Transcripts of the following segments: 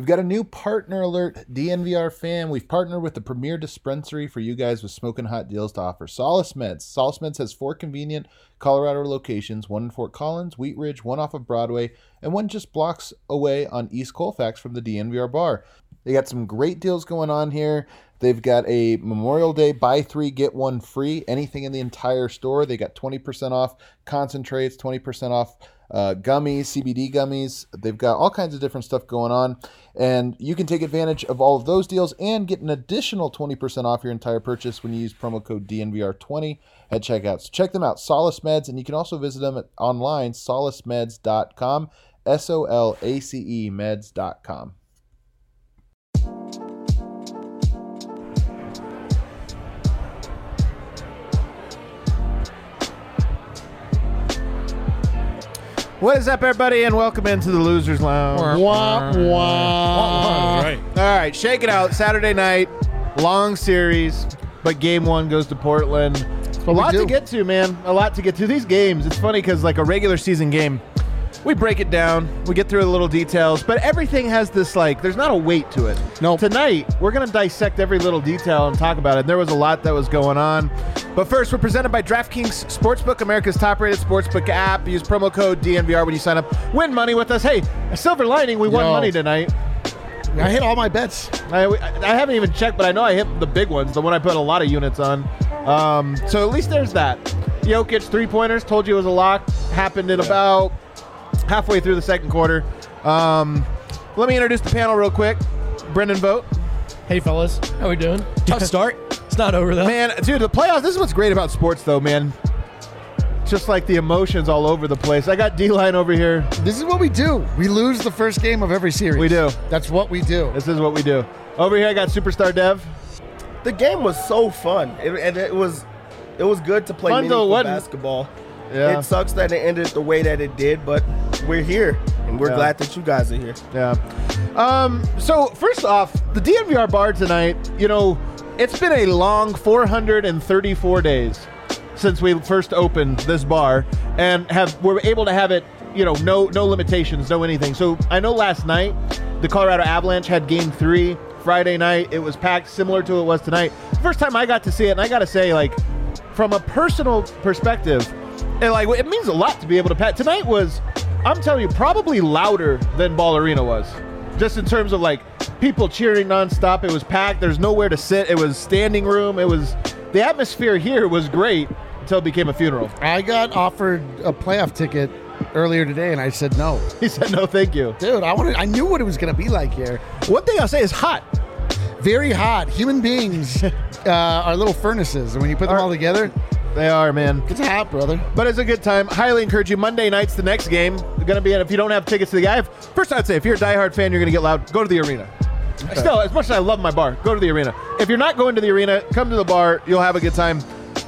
We've got a new partner alert, DNVR fam. We've partnered with the premier dispensary for you guys with smoking hot deals to offer. Solace Meds. Solace Meds has 4 convenient Colorado locations, one in Fort Collins, Wheat Ridge, one off of Broadway, and one just blocks away on East Colfax from the DNVR bar. They got some great deals going on here. They've got a Memorial Day buy 3, get 1 free. Anything in the entire store. They got 20% off concentrates, 20% off gummies, CBD gummies. They've got all kinds of different stuff going on. And you can take advantage of all of those deals and get an additional 20% off your entire purchase when you use promo code DNVR20 at checkout. So check them out, Solace Meds. And you can also visit them online, solacemeds.com, SOLACE meds.com. What is up, everybody, and welcome into the Losers Lounge. Wah, wah. All right, shake it out. Saturday night, long series, but game 1 goes to Portland. A lot to get to, man. A lot to get to. These games, it's funny because like a regular season game, we break it down, we get through the little details, but everything has this, like, there's not a weight to it. No. Tonight, we're going to dissect every little detail and talk about it. There was a lot that was going on. But first, we're presented by DraftKings Sportsbook, America's top-rated sportsbook app. Use promo code DNVR when you sign up. Win money with us. Hey, a silver lining, we won money tonight. I hit all my bets. I haven't even checked, but I know I hit the big ones, the one I put a lot of units on. So at least there's that. Jokic, three-pointers, told you it was a lock. Happened in about halfway through the second quarter. Let me introduce the panel real quick. Brendan Vogt. Hey, fellas. How we doing? Tough start. It's not over, though. Man, dude, the playoffs, this is what's great about sports, though, man. Just like the emotions all over the place. I got D-Line over here. This is what we do. We lose the first game of every series. We do. That's what we do. This is what we do. Over here, I got Superstar Dev. The game was so fun, and it was good to play meaningful basketball. Yeah. It sucks that it ended the way that it did, but we're here, and we're glad that you guys are here. Yeah. So, first off, the DNVR bar tonight, you know, it's been a long 434 days since we first opened this bar, and we're able to have it, you know, no limitations, no anything. So, I know last night, the Colorado Avalanche had game 3. Friday night, it was packed similar to what it was tonight. First time I got to see it, and I got to say, like, from a personal perspective, it means a lot to be able to pack. Tonight was, I'm telling you, probably louder than Ball Arena was. Just in terms of, like, people cheering nonstop. It was packed. There's nowhere to sit. It was standing room. The atmosphere here was great until it became a funeral. I got offered a playoff ticket earlier today, and I said no. He said no, thank you. Dude, I knew what it was going to be like here. One thing I'll say is hot. Very hot. Human beings are little furnaces, and when you put them all together, they are, man. It's hot, brother. But it's a good time. Highly encourage you. Monday night's the next game. They're going to be, if you don't have tickets to the game, first I'd say, if you're a diehard fan, you're going to get loud, go to the arena. Okay. Still, as much as I love my bar, go to the arena. If you're not going to the arena, come to the bar. You'll have a good time.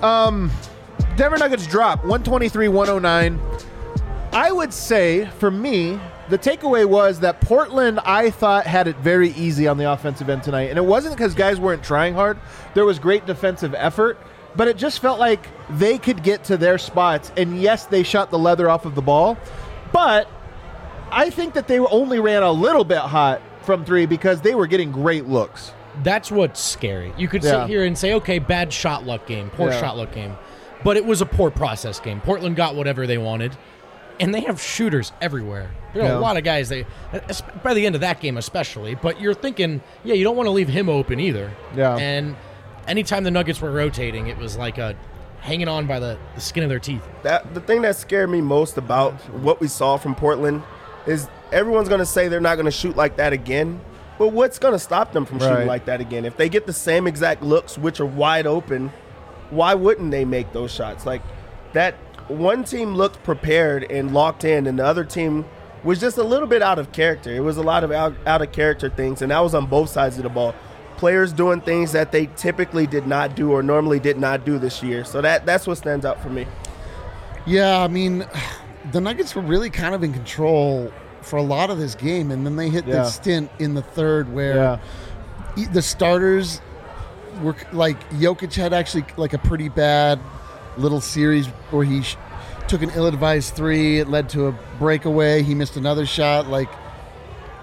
Denver Nuggets drop 123-109. I would say, for me, the takeaway was that Portland, I thought, had it very easy on the offensive end tonight. And it wasn't because guys weren't trying hard. There was great defensive effort. But it just felt like they could get to their spots. And yes, they shot the leather off of the ball. But I think that they only ran a little bit hot from 3 because they were getting great looks. That's what's scary. You could sit here and say, okay, bad shot luck game, poor shot luck game. But it was a poor process game. Portland got whatever they wanted. And they have shooters everywhere. There are a lot of guys, by the end of that game especially. But you're thinking, you don't want to leave him open either. Yeah. And anytime the Nuggets were rotating, it was like hanging on by the skin of their teeth. The thing that scared me most about what we saw from Portland is everyone's going to say they're not going to shoot like that again. But what's going to stop them from shooting like that again? If they get the same exact looks, which are wide open, why wouldn't they make those shots? Like, that one team looked prepared and locked in, and the other team was just a little bit out of character. It was a lot of out of character things, and that was on both sides of the ball. Players doing things that they typically did not do or normally did not do this year. So that's what stands out for me. Yeah, I mean, the Nuggets were really kind of in control for a lot of this game, and then they hit this stint in the third where the starters were like, Jokic had actually like a pretty bad little series where he took an ill-advised 3. It led to a breakaway. He missed another shot. Like,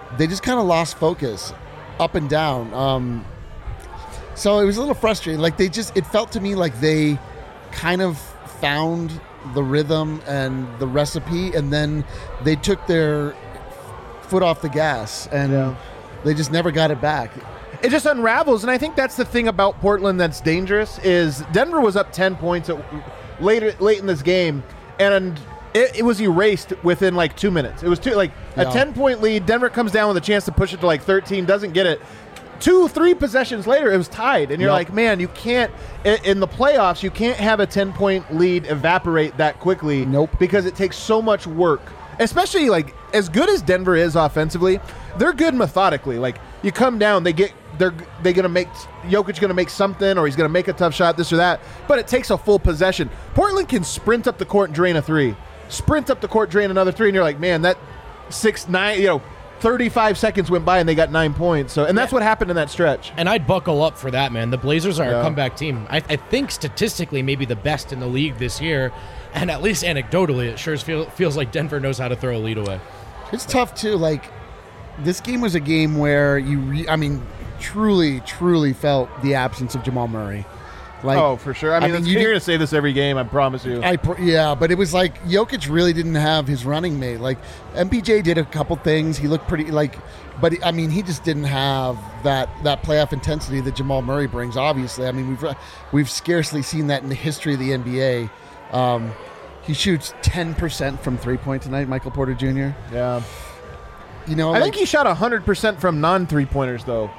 they just kind of lost focus up and down. So it was a little frustrating. Like it felt to me like they kind of found the rhythm and the recipe, and then they took their foot off the gas, and they just never got it back. It just unravels, and I think that's the thing about Portland that's dangerous is Denver was up 10 points late in this game, and it was erased within like 2 minutes. It was a 10-point lead. Denver comes down with a chance to push it to like 13, doesn't get it. 2-3 possessions later, it was tied, and you're like, man, you can't in the playoffs. You can't have a 10-point lead evaporate that quickly. Nope, because it takes so much work. Especially like as good as Denver is offensively, they're good methodically. Like you come down, they're gonna make Jokic gonna make something, or he's gonna make a tough shot, this or that. But it takes a full possession. Portland can sprint up the court and drain a 3, sprint up the court, drain another 3, and you're like, man, that 6-9, 35 seconds went by and they got 9 points. So, and that's what happened in that stretch. And I'd buckle up for that, man. The Blazers are a comeback team. I think statistically maybe the best in the league this year, and at least anecdotally, it sure feels like Denver knows how to throw a lead away. It's tough too. Like this game was a game where truly, truly felt the absence of Jamal Murray. Like, for sure. I mean you're going to say this every game, I promise you. But it was like Jokic really didn't have his running mate. Like, MPJ did a couple things. He looked pretty, but I mean, he just didn't have that playoff intensity that Jamal Murray brings, obviously. I mean, we've scarcely seen that in the history of the NBA. He shoots 10% from three-point tonight, Michael Porter Jr. Yeah. I think he shot 100% from non-three-pointers, though.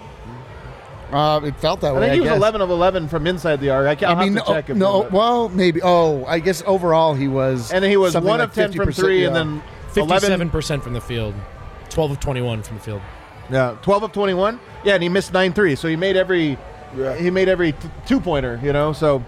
It felt that way. I think he was 11 of 11 from inside the arc. I'll have to check. Maybe. I guess overall he was. And then he was 1 of 10 from 3, and then 57% from the field, 12 of 21 from the field. Yeah, 12 of 21. Yeah, and he missed 9 threes, so he made every two-pointer. So,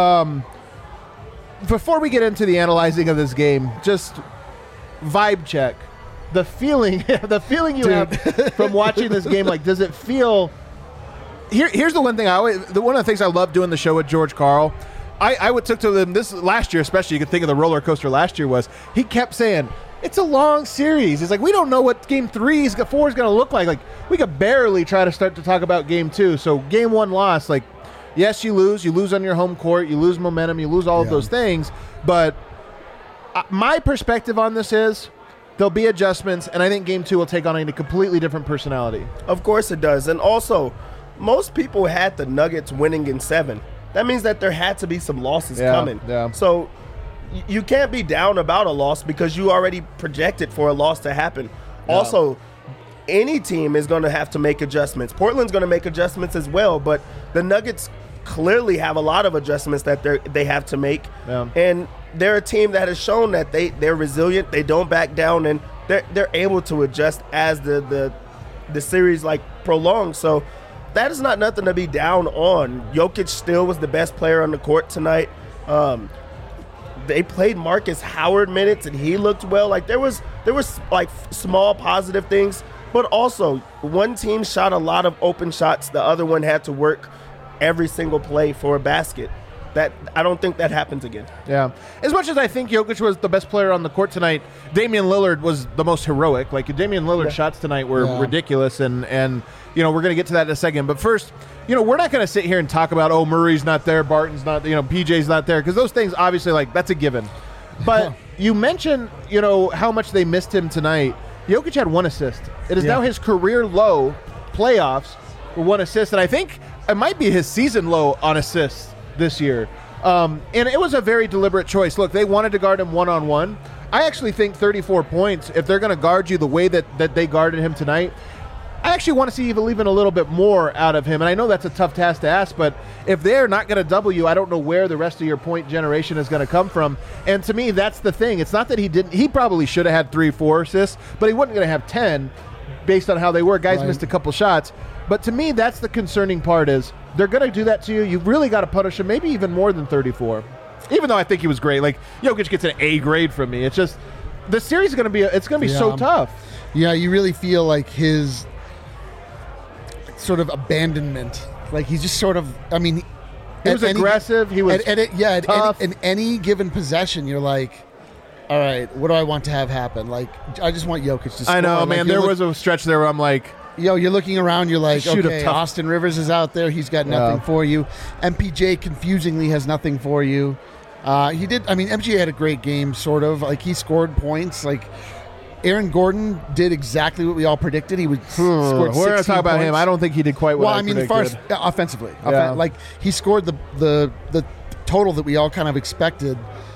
before we get into the analyzing of this game, just vibe check. The feeling you have from watching this game. Like, does it feel? Here's the one thing one of the things I love doing the show with George Karl. I took to them this last year, especially. You could think of the roller coaster last year was he kept saying it's a long series. He's like, we don't know what game 4 is going to look like. Like, we could barely try to start to talk about game 2. So game 1 loss, like, yes, you lose on your home court, you lose momentum, you lose all of those things. But my perspective on this is there'll be adjustments, and I think game 2 will take on a completely different personality. Of course it does, and also. Most people had the Nuggets winning in 7. That means that there had to be some losses coming. Yeah. So you can't be down about a loss because you already projected for a loss to happen. Yeah. Also, any team is going to have to make adjustments. Portland's going to make adjustments as well, but the Nuggets clearly have a lot of adjustments that they have to make. Yeah. And they're a team that has shown that they're resilient, they don't back down, and they're able to adjust as the series prolongs. So that is not nothing to be down on. Jokic still was the best player on the court tonight. They played Marcus Howard minutes, and he looked well. There was small positive things, but also one team shot a lot of open shots. The other one had to work every single play for a basket. That I don't think that happens again. Yeah. As much as I think Jokic was the best player on the court tonight, Damian Lillard was the most heroic. Damian Lillard's shots tonight were ridiculous, and we're going to get to that in a second. But first, we're not going to sit here and talk about, Murray's not there, Barton's not, PJ's not there, because those things obviously that's a given. But you mentioned, how much they missed him tonight. Jokic had 1 assist. It is now his career low playoffs for 1 assist, and I think it might be his season low on assists this year. And it was a very deliberate choice. Look, they wanted to guard him one-on-one. I actually think 34 points, if they're going to guard you the way that they guarded him tonight, I actually want to see even a little bit more out of him. And I know that's a tough task to ask, but if they're not going to double you, I don't know where the rest of your point generation is going to come from. And to me, that's the thing. It's not that he probably should have had 3-4 assists, but he wasn't going to have 10 based on how they were. Guys missed a couple shots. But to me, that's the concerning part is they're going to do that to you. You've really got to punish him, maybe even more than 34. Even though I think he was great. Jokic gets an A grade from me. It's just the series is going to be so tough. Yeah, you really feel like his sort of abandonment. He's just sort of, he was aggressive. He was tough. In any given possession, you're like, all right, what do I want to have happen? Like, I just want Jokic to score. I know, like, man. There was a stretch there where I'm like, you're looking around, you're like, Shoot okay, a tough- Austin Rivers is out there. He's got nothing for you. MPJ confusingly has nothing for you. MJ had a great game, sort of. Like, he scored points. Like, Aaron Gordon did exactly what we all predicted. He would scored 16 we're going to talk about points. him. I don't think he did quite what I predicted. As far as offensively. Yeah. Like, he scored the total that we all kind of expected.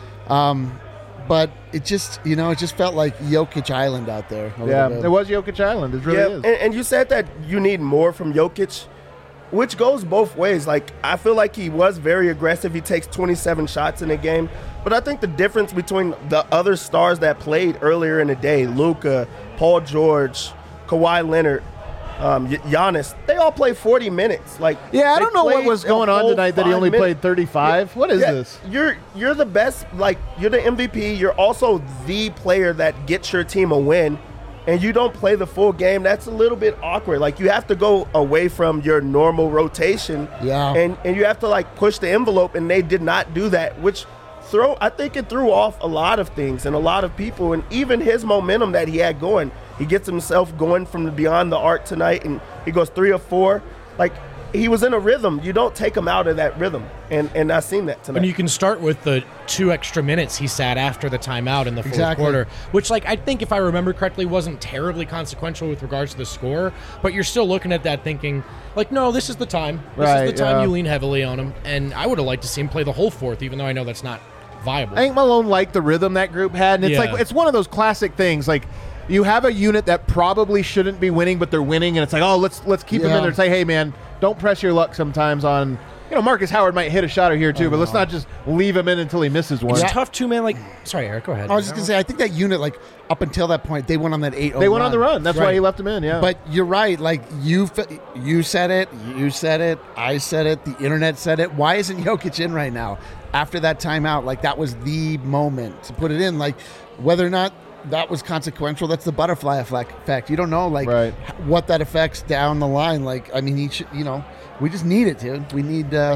But it just felt like Jokic Island out there. Yeah, it was Jokic Island. It really is. And you said that you need more from Jokic, which goes both ways. Like, I feel like he was very aggressive. He takes 27 shots in a game. But I think the difference between the other stars that played earlier in the day, Luka, Paul George, Kawhi Leonard, Giannis, they all played 40 minutes. Like, I don't know what was going on tonight that he only played 35. Yeah. What is this? You're the best. Like, you're the MVP. You're also the player that gets your team a win, and you don't play the full game. That's a little bit awkward. Like, you have to go away from your normal rotation. Yeah. And you have to, like, push the envelope, and they did not do that, which I think it threw off a lot of things and a lot of people, and even his momentum that he had going. He gets himself going from beyond the arc tonight, and he goes 3 of 4. Like, he was in a rhythm. You don't take him out of that rhythm, and I've seen that tonight. And you can start with the 2 extra minutes he sat after the timeout in the fourth quarter, which, like, I think if I remember correctly, wasn't terribly consequential with regards to the score, but you're still looking at that thinking, like, no, this is the time. This is the time you lean heavily on him, and I would have liked to see him play the whole fourth, even though I know that's not viable. I think Malone liked the rhythm that group had, and it's like it's one of those classic things. Like, you have a unit that probably shouldn't be winning, but they're winning, and it's like, oh, let's keep them in there and say, hey, man, don't press your luck sometimes on. Marcus Howard might hit a shot or here too, but let's not just leave him in until he misses one. It's tough too, man. Like, sorry, Eric, go ahead. I was just gonna say, I think that unit, like, up until that point, they went on that 8-0. They went on the run. That's why he left him in. Yeah. But you're right. Like, you said it. You said it. I said it. The internet said it. Why isn't Jokic in right now? After that timeout, like, that was the moment to put it in. Like, whether or not that was consequential, that's the butterfly effect. You don't know, like, what that affects down the line. Like, I mean, he should, we just need it, dude. We need. Yeah,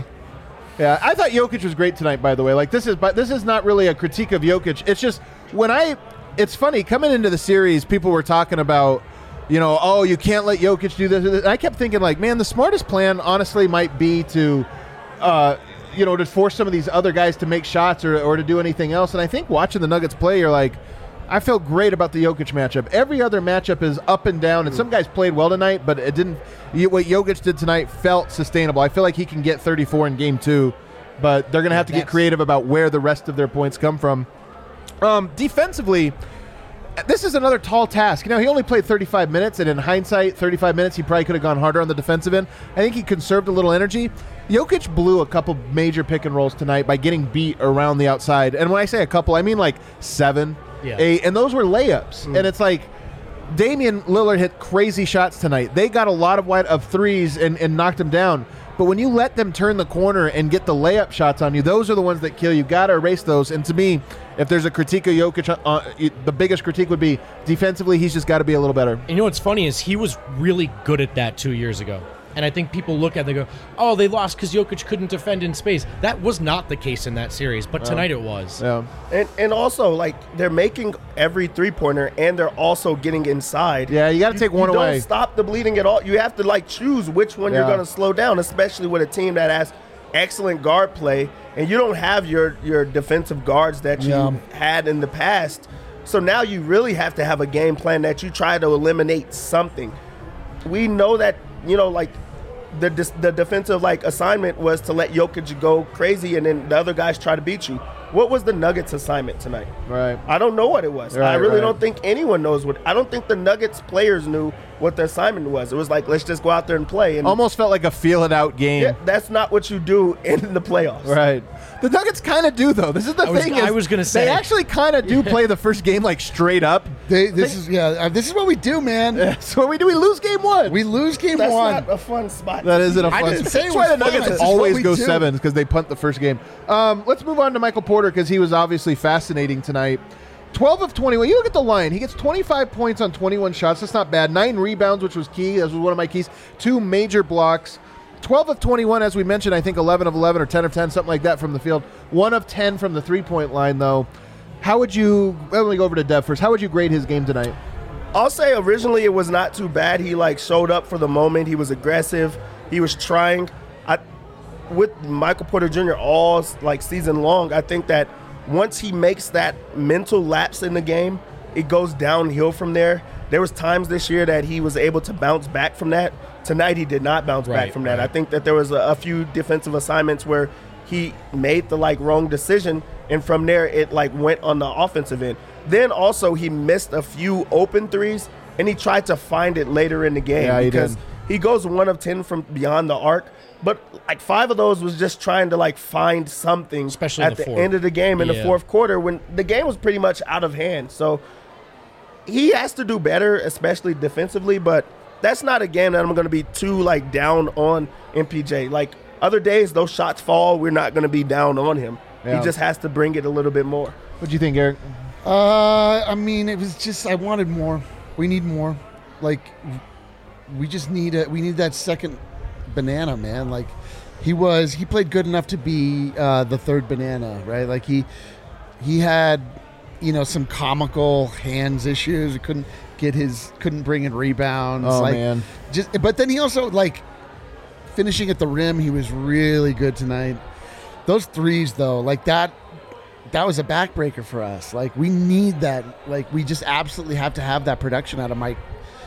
I thought Jokic was great tonight. By the way, like, this is not really a critique of Jokic. It's just it's funny coming into the series, people were talking about, oh, you can't let Jokic do this. And I kept thinking, like, man, the smartest plan honestly might be to. To force some of these other guys to make shots or to do anything else. And I think watching the Nuggets play, you're like, I felt great about the Jokic matchup. Every other matchup is up and down, and some guys played well tonight, but it didn't. What Jokic did tonight felt sustainable. I feel like he can get 34 in Game 2, but they're going to have to get creative about where the rest of their points come from. Defensively, this is another tall task. He only played 35 minutes, and in hindsight, 35 minutes, he probably could have gone harder on the defensive end. I think he conserved a little energy. Jokic blew a couple major pick and rolls tonight by getting beat around the outside. And when I say a couple, I mean like 7, 8, and those were layups. And it's like Damian Lillard hit crazy shots tonight. They got a lot of threes and knocked him down. But when you let them turn the corner and get the layup shots on you, those are the ones that kill you. Got to erase those. And to me, if there's a critique of Jokic, the biggest critique would be defensively, he's just got to be a little better. And what's funny is he was really good at that 2 years ago. And I think people look at it and they go, oh, they lost because Jokic couldn't defend in space. That was not the case in that series, but tonight it was. Yeah. And also, like, they're making every three-pointer, and they're also getting inside. Yeah, you got to take one away. You don't stop the bleeding at all. You have to, like, choose which one you're going to slow down, especially with a team that has excellent guard play, and you don't have your defensive guards that you had in the past. So now you really have to have a game plan that you try to eliminate something. We know that, the defensive, like, assignment was to let Jokic go crazy and then the other guys try to beat you. What was the Nuggets assignment tonight? Right. I don't know what it was. Right, I really don't think anyone knows I don't think the Nuggets players knew what the assignment was. It was like, let's just go out there and play. And almost felt like a feel-it-out game. Yeah, that's not what you do in the playoffs. Right. The Nuggets kind of do, though. This is the thing. I was going to say. They actually kind of do play the first game, like, straight up. This is what we do, man. That's what we do. We lose game 1. We lose game That's 1. not a fun spot. That isn't a fun spot. That's why the Nuggets always go 7, because they punt the first game. Let's move on to Michael Porter, because he was obviously fascinating tonight. 12 of 21. You look at the line. He gets 25 points on 21 shots. That's not bad. 9 rebounds, which was key. That was one of my keys. 2 major blocks. 12 of 21, as we mentioned, I think 11 of 11 or 10 of 10, something like that from the field. 1 of 10 from the three-point line, though. How would you? Let me go over to Dev first. How would you grade his game tonight? I'll say originally it was not too bad. He showed up for the moment. He was aggressive. He was trying. With Michael Porter Jr. all season long, I think that once he makes that mental lapse in the game, it goes downhill from there. There was times this year that he was able to bounce back from that. Tonight he did not bounce back from that. I think that there was a few defensive assignments where he made the wrong decision, and from there it went on the offensive end. Then also he missed a few open threes, and he tried to find it later in the game because he goes 1 of 10 from beyond the arc. But 5 of those was just trying to find something, especially at the end of the game in the fourth quarter when the game was pretty much out of hand. So he has to do better, especially defensively. But that's not a game that I'm going to be too down on MPJ. Other days, those shots fall. We're not going to be down on him. Yeah. He just has to bring it a little bit more. What do you think, Eric? I mean, it was just I wanted more. We need more. We just need we need that second banana, man. He played good enough to be the third banana, right? He had some comical hands issues. He couldn't bring in rebounds. Oh man. But then he also finishing at the rim, he was really good tonight. Those threes though, that was a backbreaker for us. We need that. We just absolutely have to have that production out of Mike.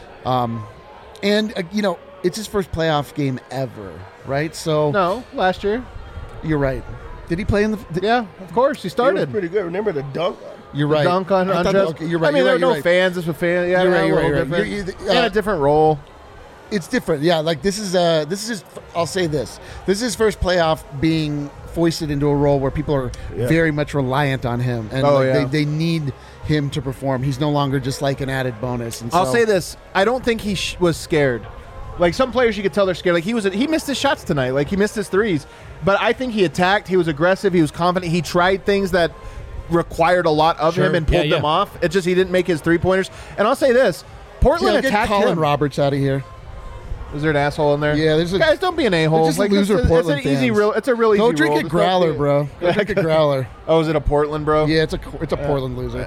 And it's his first playoff game ever, right? So no, last year. You're right. Did he play in the? Yeah, of course. He started. He was pretty good. Remember the dunk? You're right. The dunk on Andres. Okay, you're right. I mean, there were no fans. This was fans. Yeah, you're right. In a different role. It's different. Yeah, this is I'll say this. This is his first playoff being foisted into a role where people are very much reliant on him, and they need him to perform. He's no longer just an added bonus. And so, I'll say this: I don't think he was scared. Some players, you could tell they're scared. He missed his shots tonight. He missed his threes, but I think he attacked. He was aggressive. He was confident. He tried things that required a lot of him and pulled them off. It's just he didn't make his 3-pointers. And I'll say this: Portland attacked Colin him. Roberts out of here. Is there an asshole in there? Yeah, there's guys. Don't be an a-hole. Just loser Portland it's an easy real. It's a really easy. Go drink a growler, bro. Go drink a growler. Oh, is it a Portland, bro? Yeah, it's a Portland loser.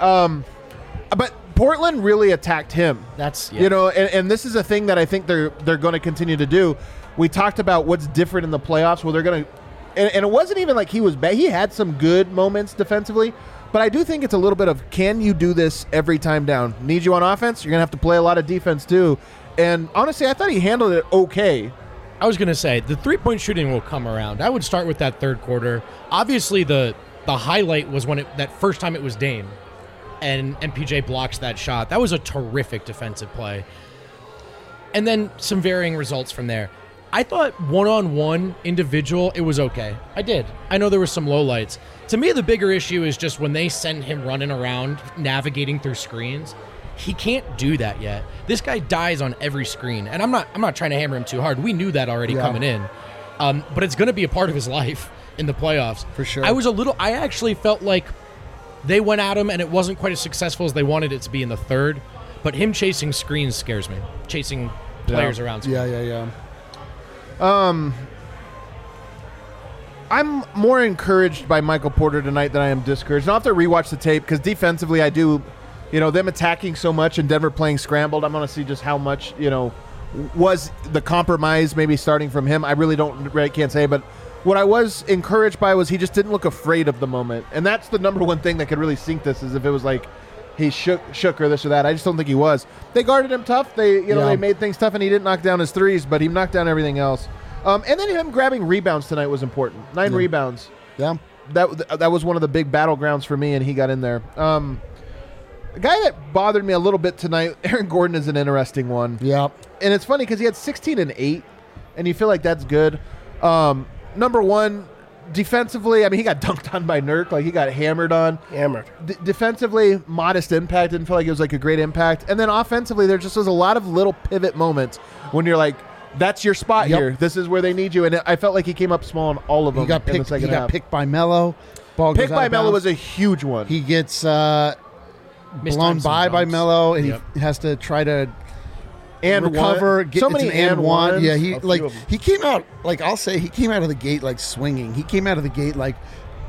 But Portland really attacked him. That's and this is a thing that I think they're going to continue to do. We talked about what's different in the playoffs. Well, they're going to, and it wasn't even he was bad. He had some good moments defensively, but I do think it's a little bit of, can you do this every time down? Need you on offense? You're going to have to play a lot of defense too. And honestly, I thought he handled it okay. I was going to say, the three-point shooting will come around. I would start with that third quarter. Obviously, the highlight was when that first time it was Dame, and MPJ blocks that shot. That was a terrific defensive play. And then some varying results from there. I thought one-on-one individual, it was okay. I did. I know there were some lowlights. To me, the bigger issue is just when they send him running around, navigating through screens. He can't do that yet. This guy dies on every screen, and I'm not trying to hammer him too hard. We knew that already coming in, but it's going to be a part of his life in the playoffs for sure. I actually felt like they went at him, and it wasn't quite as successful as they wanted it to be in the third. But him chasing screens scares me. Chasing players around screens. Yeah. I'm more encouraged by Michael Porter tonight than I am discouraged. I'll have to rewatch the tape because defensively I do. Them attacking so much and Denver playing scrambled, I'm going to see just how much, was the compromise maybe starting from him. I really can't say, but what I was encouraged by was he just didn't look afraid of the moment. And that's the number one thing that could really sink this, is if it was he shook or this or that. I just don't think he was. They guarded him tough. They made things tough, and he didn't knock down his threes, but he knocked down everything else. And then him grabbing rebounds tonight was important. 9 rebounds. Yeah. That was one of the big battlegrounds for me, and he got in there. A guy that bothered me a little bit tonight, Aaron Gordon, is an interesting one. Yeah. And it's funny because he had 16 and 8, and you feel like that's good. Number one, defensively, I mean, he got dunked on by Nurk. He got hammered on. Defensively, modest impact. Didn't feel like it was a great impact. And then offensively, there just was a lot of little pivot moments when you're like, that's your spot here. This is where they need you. And I felt like he came up small on all of them. He got picked by Melo. Picked by Melo was a huge one. He gets blown by Melo, and he has to try to recover. So many and ones. Yeah, he came out I'll say he came out of the gate swinging. He came out of the gate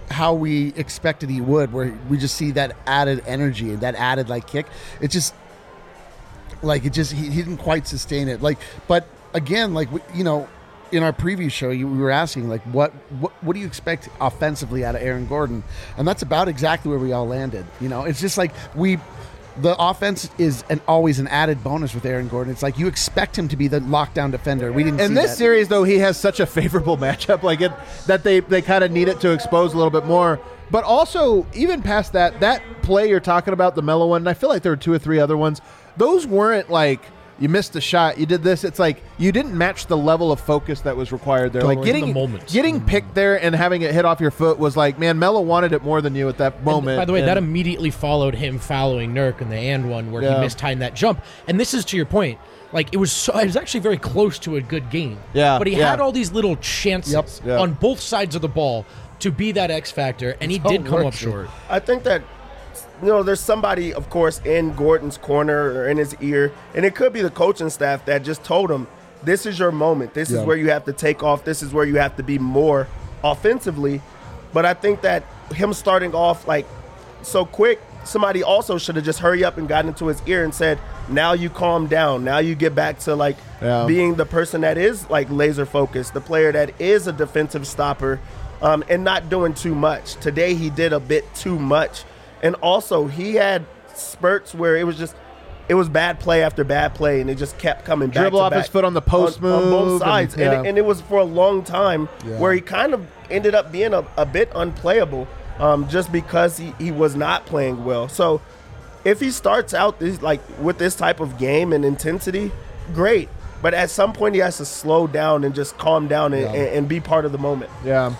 how we expected he would, where we just see that added energy and that added like kick. It just like he didn't quite sustain it. Like, but again, like you know, in our preview show, we were asking like, what do you expect offensively out of Aaron Gordon? And that's about exactly where we all landed. You know, it's just like the offense is always an added bonus with Aaron Gordon. It's like you expect him to be the lockdown defender. We didn't. In this series, though, he has such a favorable matchup, like that they kind of need it to expose a little bit more. But also, even past that play you're talking about, the Melo one, and I feel like there were 2 or 3 other ones. Those weren't like you missed a shot, you did this. It's like you didn't match the level of focus that was required there. Like getting picked there and having it hit off your foot was like, man, Melo wanted it more than you at that moment. And by the way, that immediately followed him following Nurk in the and one where he mistimed that jump. And this is to your point. Like it was actually very close to a good game. Yeah. But he had all these little chances on both sides of the ball to be that X factor, and he did come up short. I think that, you know, there's somebody, of course, in Gordon's corner or in his ear, and it could be the coaching staff that just told him, this is your moment. This is where you have to take off. This is where you have to be more offensively. But I think that him starting off like so quick, somebody also should have just hurry up and gotten into his ear and said, now you calm down. Now you get back to like being the person that is like laser focused, the player that is a defensive stopper, and not doing too much. Today he did a bit too much. And also he had spurts where it was bad play after bad play, and it just kept coming back. Dribble off his foot on the post move. On both sides. And it was for a long time where he kind of ended up being a bit unplayable just because he was not playing well. So if he starts out with this type of game and intensity, great. But at some point he has to slow down and just calm down and be part of the moment. Yeah.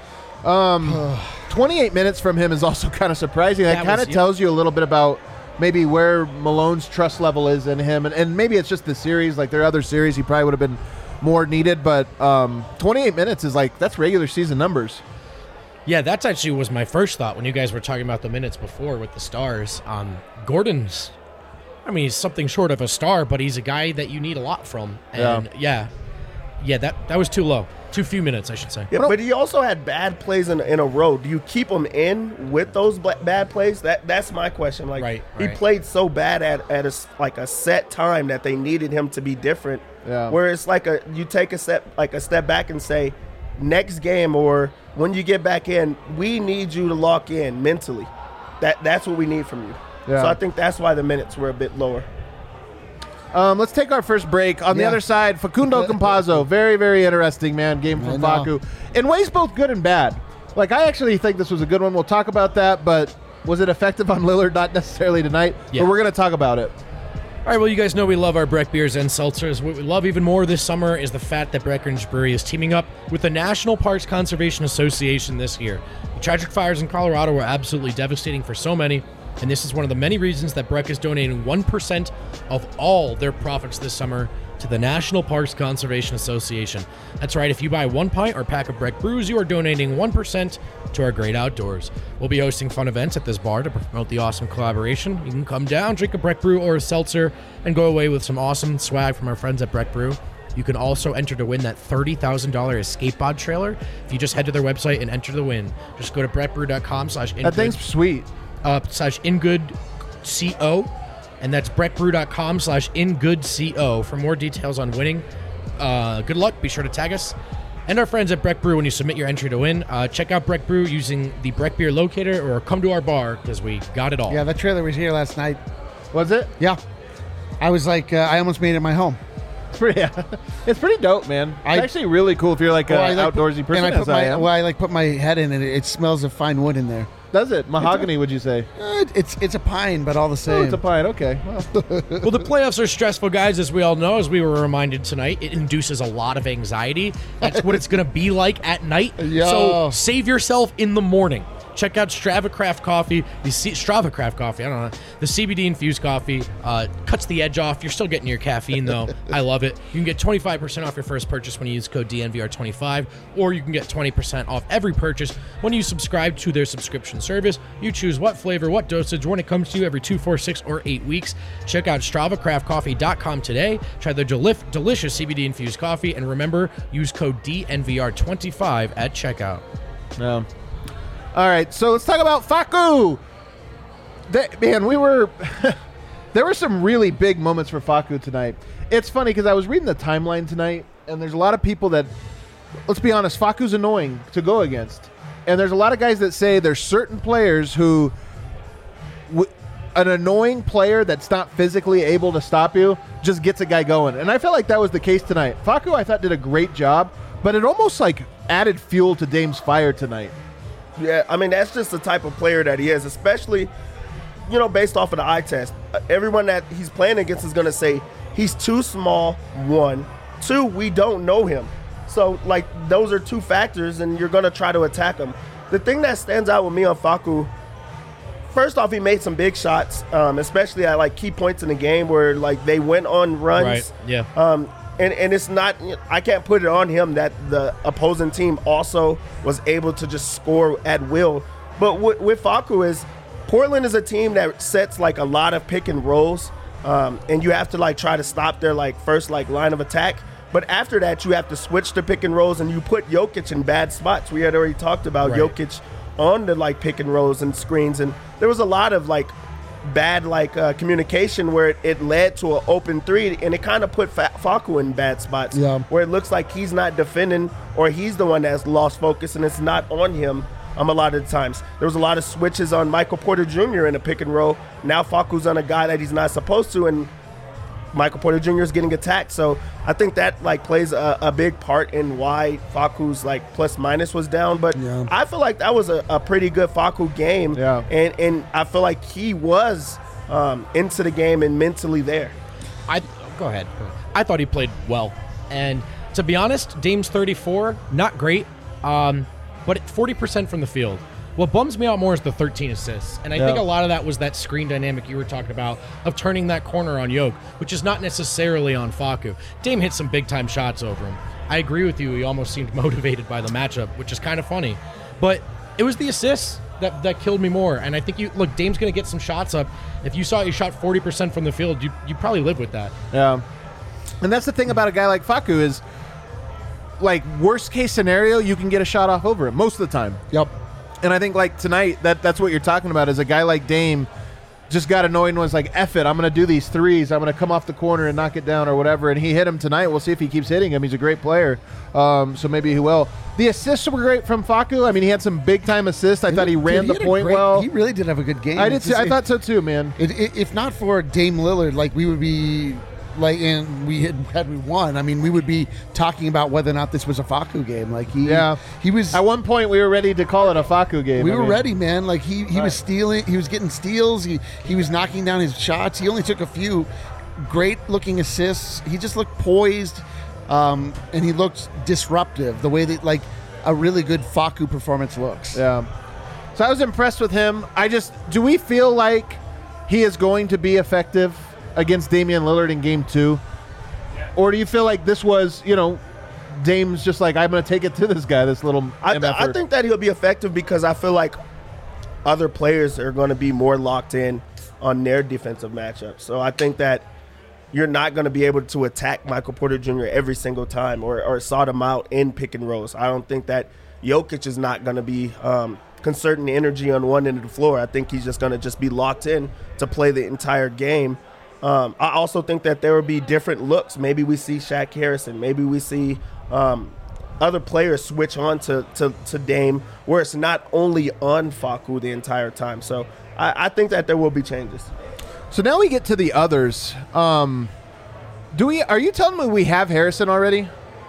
28 minutes from him is also kind of surprising. That kind of tells you a little bit about maybe where Malone's trust level is in him. And maybe it's just the series. Like there are other series he probably would have been more needed. But 28 minutes is like, that's regular season numbers. Yeah, that's actually was my first thought when you guys were talking about the minutes before with the stars. Gordon's, I mean, he's something short of a star, but he's a guy that you need a lot from. And that was too low. Too few minutes, I should say. Yeah, but he also had bad plays in a row. Do you keep him in with those bad plays? That's my question. Like he played so bad at a set time that they needed him to be different. Yeah. Where it's like you take a step back and say, next game or when you get back in, we need you to lock in mentally. That's what we need from you. Yeah. So I think that's why the minutes were a bit lower. Let's take our first break. On the other side, Facundo Campazzo. Very, very interesting, man. Game from Facu. In ways both good and bad. Like, I actually think this was a good one. We'll talk about that, but was it effective on Lillard? Not necessarily tonight, but we're going to talk about it. All right, well, you guys know we love our Breck beers and seltzers. What we love even more this summer is the fact that Breckenridge Brewery is teaming up with the National Parks Conservation Association this year. The tragic fires in Colorado were absolutely devastating for so many, and this is one of the many reasons that Breck is donating 1% of all their profits this summer to the National Parks Conservation Association. That's right, if you buy 1 pint or pack of Breck brews, you are donating 1% to our great outdoors. We'll be hosting fun events at this bar to promote the awesome collaboration. You can come down, drink a Breck brew or a seltzer, and go away with some awesome swag from our friends at Breck Brew. You can also enter to win that $30,000 escape pod trailer if you just head to their website and enter the win. Just go to breckbrew.com/ingood. That thing's sweet. /ingoodco, and that's breckbrew.com/ingoodco for more details on winning. Good luck. Be sure to tag us and our friends at Breck Brew when you submit your entry to win. Check out Breck Brew using the Breck Beer Locator or come to our bar because we got it all. Yeah, that trailer was here last night. Was it? Yeah. I was like, I almost made it my home. It's pretty dope, man. It's actually really cool if you're like an outdoorsy person. And I put my head in it. It smells of fine wood in there. Does it? Mahogany, would you say? It's a pine, but all the same. Oh, it's a pine. Okay. Well, the playoffs are stressful, guys, as we all know, as we were reminded tonight. It induces a lot of anxiety. That's what it's going to be like at night. Yeah. So save yourself in the morning. Check out Strava Craft Coffee, the CBD infused coffee. Cuts the edge off. You're still getting your caffeine, though. I love it. You can get 25% off your first purchase when you use code DNVR25, or you can get 20% off every purchase when you subscribe to their subscription service. You choose what flavor, what dosage, when it comes to you every 2, 4, 6, or 8 weeks. Check out StravaCraftCoffee.com today. Try their delicious CBD infused coffee, and remember, use code DNVR25 at checkout. Yeah. All right, so let's talk about Facu. Man, there were some really big moments for Facu tonight. It's funny because I was reading the timeline tonight, and there's a lot of people that, let's be honest, Facu's annoying to go against. And there's a lot of guys that say there's certain players who, an annoying player that's not physically able to stop you just gets a guy going. And I felt like that was the case tonight. Facu, I thought, did a great job, but it almost like added fuel to Dame's fire tonight. Yeah, I mean, that's just the type of player that he is, especially, based off of the eye test. Everyone that he's playing against is going to say he's too small, 1. 2, we don't know him. So, those are 2 factors, and you're going to try to attack him. The thing that stands out with me on Facu, first off, he made some big shots, especially at, key points in the game where, they went on runs. Right, yeah. And it's not, I can't put it on him that the opposing team also was able to just score at will. But with Facu is, Portland is a team that sets a lot of pick and rolls, and you have to try to stop their first line of attack. But after that, you have to switch to pick and rolls, and you put Jokic in bad spots. We had already talked about Jokic on the pick and rolls and screens, and there was a lot of bad communication where it led to an open 3, and it kind of put Facu in bad spots where it looks like he's not defending or he's the one that's lost focus, and it's not on him a lot of the times. There was a lot of switches on Michael Porter Jr. in a pick and roll. Now Facu's on a guy that he's not supposed to, and Michael Porter Jr. is getting attacked. So I think that plays a big part in why Facu's plus minus was down. But I feel like that was a pretty good Facu game. Yeah. And I feel like he was into the game and mentally there. Go ahead. I thought he played well. And to be honest, Dame's 34, not great, but 40% from the field. What bums me out more is the 13 assists. And I think a lot of that was that screen dynamic you were talking about of turning that corner on Yoke, which is not necessarily on Facu. Dame hit some big-time shots over him. I agree with you. He almost seemed motivated by the matchup, which is kind of funny. But it was the assists that killed me more. And I think, Dame's going to get some shots up. If you saw he shot 40% from the field, you probably live with that. Yeah. And that's the thing about a guy like Facu is, worst case scenario, you can get a shot off over him most of the time. Yep. And I think tonight, that's what you're talking about, is a guy like Dame just got annoyed and was like, F it, I'm going to do these threes. I'm going to come off the corner and knock it down or whatever. And he hit him tonight. We'll see if he keeps hitting him. He's a great player. So maybe he will. The assists were great from Facu. I mean, he had some big-time assists. I thought he ran the point well. He really did have a good game. I did too. I thought so too, man. If not for Dame Lillard, we would be... and we had we won, I mean, we would be talking about whether or not this was a Facu game. He was. At one point, we were ready to call it a Facu game. We were ready, man. He was stealing. He was getting steals. He was knocking down his shots. He only took a few great looking assists. He just looked poised, and he looked disruptive. The way that a really good Facu performance looks. Yeah. So I was impressed with him. Do we feel like he is going to be effective against Damian Lillard in Game 2? Or do you feel like this was, Dame's just I'm going to take it to this guy, this little I think that he'll be effective because I feel like other players are going to be more locked in on their defensive matchups. So I think that you're not going to be able to attack Michael Porter Jr. every single time or sort him out in pick and rolls. I don't think that Jokic is not going to be concerting energy on one end of the floor. I think he's just going to be locked in to play the entire game. I also think that there will be different looks. Maybe we see Shaq Harrison. Maybe we see other players switch on to Dame, where it's not only on Facu the entire time. So I think that there will be changes. So now we get to the others. Are you telling me we have Harrison already?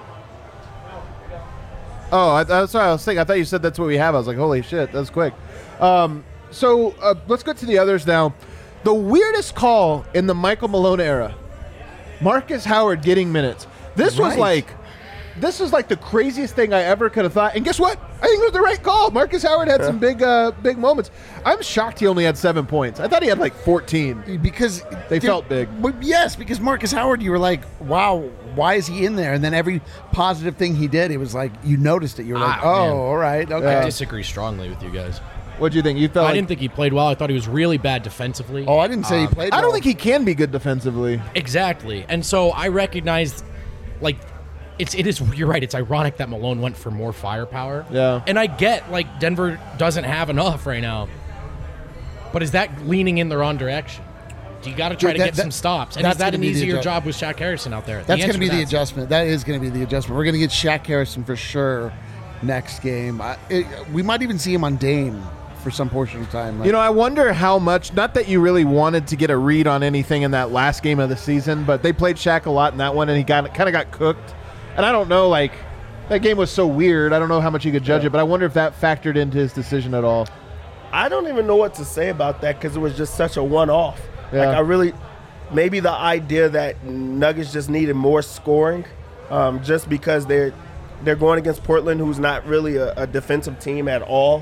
Oh, that's what I was thinking. I thought you said that's what we have. I was like, holy shit, that's quick. So let's go to the others now. The weirdest call in the Michael Malone era, Marcus Howard getting minutes. This was the craziest thing I ever could have thought. And guess what? I think it was the right call. Marcus Howard had some big moments. I'm shocked he only had 7 points. I thought he had 14. Because they felt big. Yes, because Marcus Howard, you were like, wow, why is he in there? And then every positive thing he did, it was you noticed it. You were like, oh, man. All right, okay. I disagree strongly with you guys. What do you think? I didn't think he played well. I thought he was really bad defensively. Oh, I didn't say he played well. I don't think he can be good defensively. Exactly. And so I recognized, You're right. It's ironic that Malone went for more firepower. Yeah. And I get, like, Denver doesn't have enough right now. But is that leaning in the wrong direction? Do you got to try to get some stops? And is that an easier job with Shaq Harrison out there? That's going to be the adjustment. That is going to be the adjustment. We're going to get Shaq Harrison for sure next game. We might even see him on Dame for some portion of time. You know, I wonder how much, not that you really wanted to get a read on anything in that last game of the season, but they played Shaq a lot in that one, and he kind of got cooked. And I don't know, like, that game was so weird. I don't know how much you could judge it, but I wonder if that factored into his decision at all. I don't even know what to say about that because it was just such a one-off. Yeah. Like, maybe the idea that Nuggets just needed more scoring just because they're going against Portland, who's not really a defensive team at all.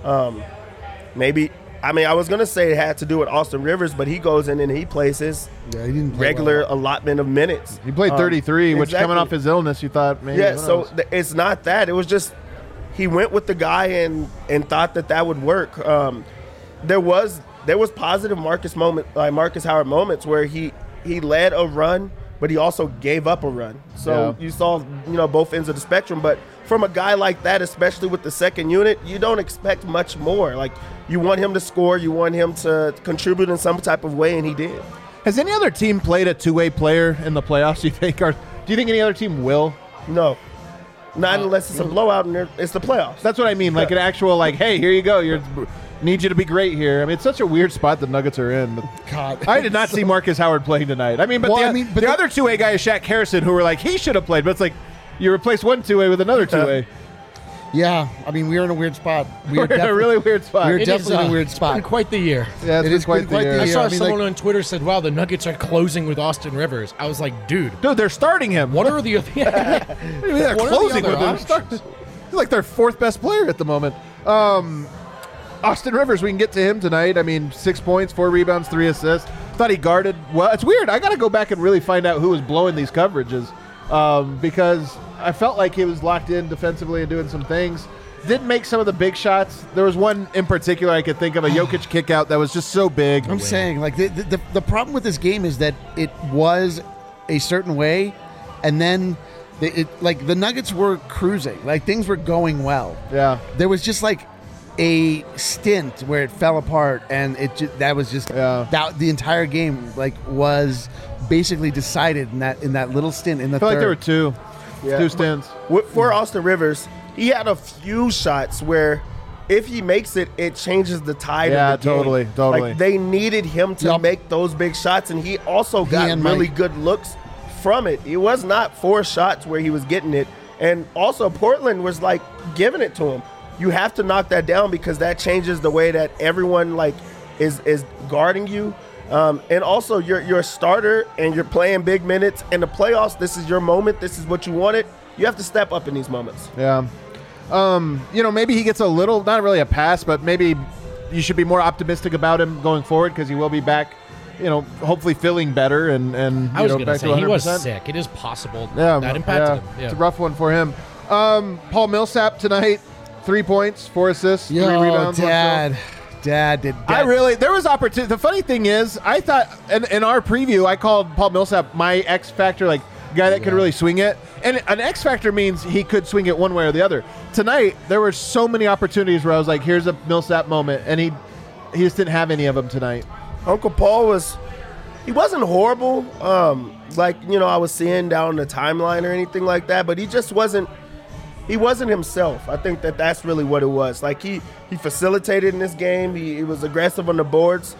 Maybe, I mean, I was going to say it had to do with Austin Rivers, but he goes in and he plays his regular allotment of minutes. He played 33, which exactly. coming off his illness, you thought maybe. Yeah, so it's not that. It was just he went with the guy and thought that would work. There was positive Marcus Howard moments where he led a run, but he also gave up a run. So you saw, both ends of the spectrum. But from a guy like that, especially with the second unit, you don't expect much more. Like, you want him to score, you want him to contribute in some type of way, and he did. Has any other team played a two-way player in the playoffs, you think? Or do you think any other team will? No. Not unless it's a blowout and it's the playoffs. That's what I mean. Like an actual, like, hey, here you go. Need you to be great here. I mean, it's such a weird spot the Nuggets are in. God, I did not see Marcus Howard playing tonight. I mean, but the other two-way guy is Shaq Harrison, who were like, he should have played. But it's like, you replace one two-way with another two-way. Yeah, I mean, we are in a weird spot. We're in a really weird spot. We're definitely in a weird spot. It's been quite the year. Yeah, it's been quite the year. I saw someone on Twitter said, wow, the Nuggets are closing with Austin Rivers. I was like, dude, they're starting him. What are the other they're closing with him. He's like their fourth best player at the moment. Austin Rivers, we can get to him tonight. I mean, 6 points, 4 rebounds, 3 assists. Thought he guarded well. It's weird. I got to go back and really find out who was blowing these coverages because I felt like he was locked in defensively and doing some things. Didn't make some of the big shots. There was one in particular I could think of, a Jokic kick out that was just so big. I'm saying, like, the problem with this game is that it was a certain way, and then the Nuggets were cruising. Like, things were going well. Yeah. There was just, like, a stint where it fell apart, and the entire game, like, was basically decided in that little stint in the third. I feel like there were two stints. For Austin Rivers, he had a few shots where if he makes it, it changes the tide of the game. Totally. Like, they needed him to make those big shots, and he also got really good looks from it. It was not 4 shots where he was getting it. And also Portland was, like, giving it to him. You have to knock that down because that changes the way that everyone, like, is guarding you. And also, you're a starter and you're playing big minutes. In the playoffs, this is your moment. This is what you wanted. You have to step up in these moments. Yeah. Maybe he gets a little, not really a pass, but maybe you should be more optimistic about him going forward because he will be back, hopefully feeling better. And I was going to say, he was 100%. sick. It is possible that impacted him. Yeah. It's a rough one for him. Paul Millsap tonight, 3 points, 4 assists, 3 rebounds. Dad, there was opportunity. The funny thing is, I thought in our preview, I called Paul Millsap my X factor, like guy that could really swing it. And an X factor means he could swing it one way or the other. Tonight, there were so many opportunities where I was like, here's a Millsap moment, and he just didn't have any of them tonight. Uncle Paul he wasn't horrible, I was seeing down the timeline or anything like that, but he just wasn't. He wasn't himself. I think that's really what it was. Like, he facilitated in this game. He was aggressive on the boards.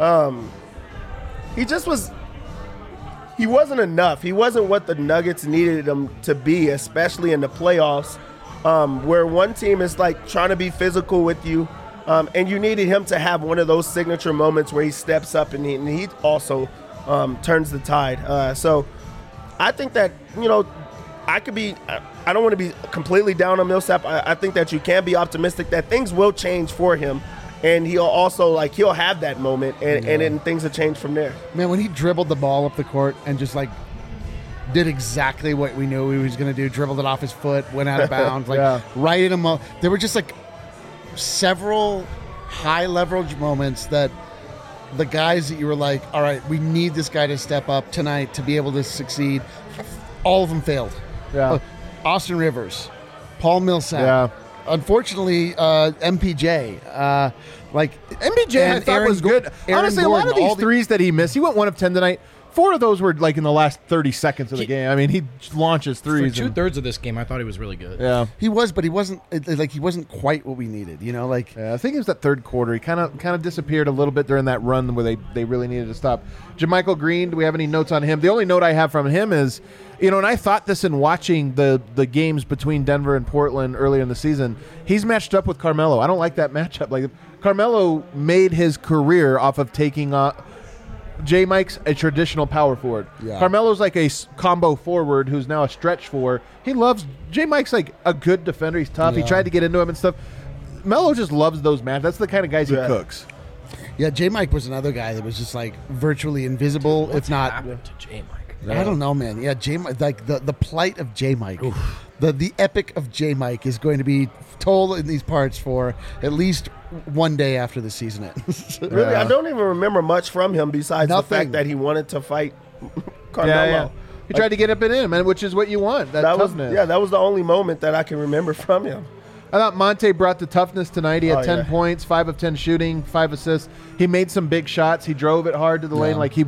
He just was. He wasn't enough. He wasn't what the Nuggets needed him to be, especially in the playoffs, where one team is, like, trying to be physical with you, and you needed him to have one of those signature moments where he steps up and he also turns the tide. So I think that, I don't want to be completely down on Millsap. I think that you can be optimistic that things will change for him. And he'll also, he'll have that moment, and then things will change from there. Man, when he dribbled the ball up the court and just, like, did exactly what we knew he was going to do, dribbled it off his foot, went out of bounds, right in a there were just, like, several high-leverage moments that the guys that you were like, all right, we need this guy to step up tonight to be able to succeed. All of them failed. Yeah. Austin Rivers, Paul Millsap. Yeah. Unfortunately, MPJ. MPJ I thought was good. Honestly, Gordon, a lot of these threes that he missed, he went 1 of 10 tonight. 4 of those were like in the last 30 seconds of the game. I mean, he launches threes. For 2/3 of this game, I thought he was really good. Yeah, he was, but he wasn't quite what we needed. You know, like I think it was that third quarter. He kind of disappeared a little bit during that run where they really needed to stop. JaMychal Green, do we have any notes on him? The only note I have from him is, and I thought this in watching the games between Denver and Portland earlier in the season, he's matched up with Carmelo. I don't like that matchup. Like Carmelo made his career off of taking J-Mike's a traditional power forward. Yeah. Carmelo's like a combo forward who's now a stretch four. He loves J-Mike's like a good defender. He's tough. Yeah. He tried to get into him and stuff. Melo just loves those matches. That's the kind of guys he cooks. Yeah, J-Mike was another guy that was just like virtually invisible, What's if not. happened to J-Mike? I don't know, man. Yeah, J-Mike, like the plight of J-Mike. The epic of J-Mike is going to be told in these parts for at least one day after the season ends. Really, I don't even remember much from him besides Nothing. the fact that he wanted to fight Carmelo. Yeah. He tried to get up and in, man, which is what you want. That toughness. That was the only moment that I can remember from him. I thought Monte brought the toughness tonight. He had 10 yeah. points, 5 of 10 shooting, 5 assists. He made some big shots. He drove it hard to the lane. Like he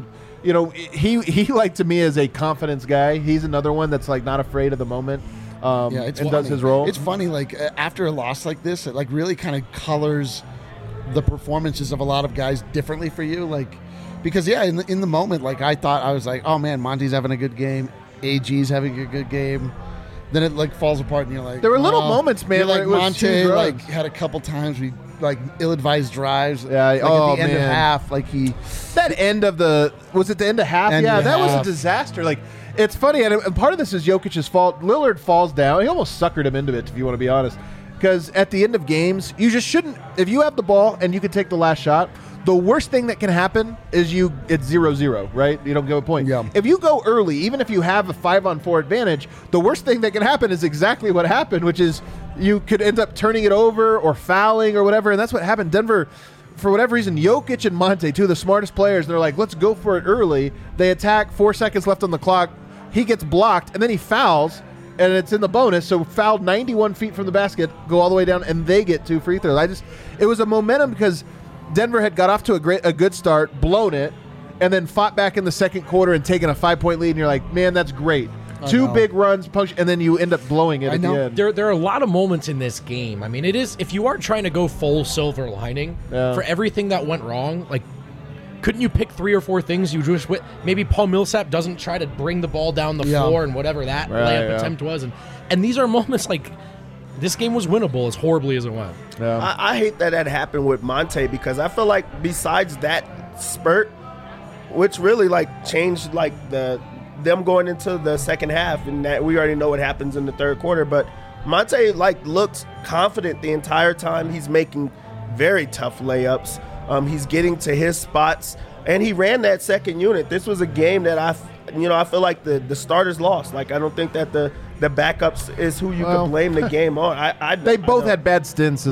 like to me as a confidence guy. He's another one that's like not afraid of the moment. It's and funny. does his role. It's funny, like after a loss like this, it like really kind of colors the performances of a lot of guys differently for you. Like, because in the moment, like I was like, oh man, Monty's having a good game, AG's having a good game. Then it like falls apart, and you're like, there were little moments, man. Like where it was Monte huge like runs. had a couple times we like ill-advised drives. Yeah, like at the end of man. half, like That end of was it the end of half? End yeah, of that was a half. disaster. Like, it's funny, and part of this is Jokic's fault. Lillard falls down. He almost suckered him into it, if you want to be honest. Because at the end of games, you just shouldn't. If you have the ball and you can take the last shot, the worst thing that can happen is it's 0-0, right? You don't get a point. Yeah. If you go early, even if you have a 5-on-4 advantage, the worst thing that can happen is exactly what happened, which is you could end up turning it over or fouling or whatever, and that's what happened. Denver, for whatever reason, Jokic and Monte, two of the smartest players, they're like, let's go for it early. They attack, 4 seconds left on the clock. He gets blocked, and then he fouls, and it's in the bonus, so fouled 91 feet from the basket, go all the way down, and they get 2 free throws. It was a momentum because Denver had got off to a good start, blown it, and then fought back in the second quarter and taken a 5-point lead, and you're like, man, that's great. Two big runs, and then you end up blowing it at the end. There are a lot of moments in this game. I mean, it is, if you aren't trying to go full silver lining for everything that went wrong, like, couldn't you pick 3 or 4 things you just maybe Paul Millsap doesn't try to bring the ball down the floor and whatever that layup attempt was, and these are moments like this game was winnable as horribly as it went. Yeah. I hate that happened with Monte because I feel like besides that spurt, which really like changed like them going into the second half, and that we already know what happens in the third quarter, but Monte like looked confident the entire time. He's making very tough layups. He's getting to his spots, and he ran that second unit. This was a game that I feel like the starters lost. Like I don't think that the backups is who you could blame the game on. They both had bad stints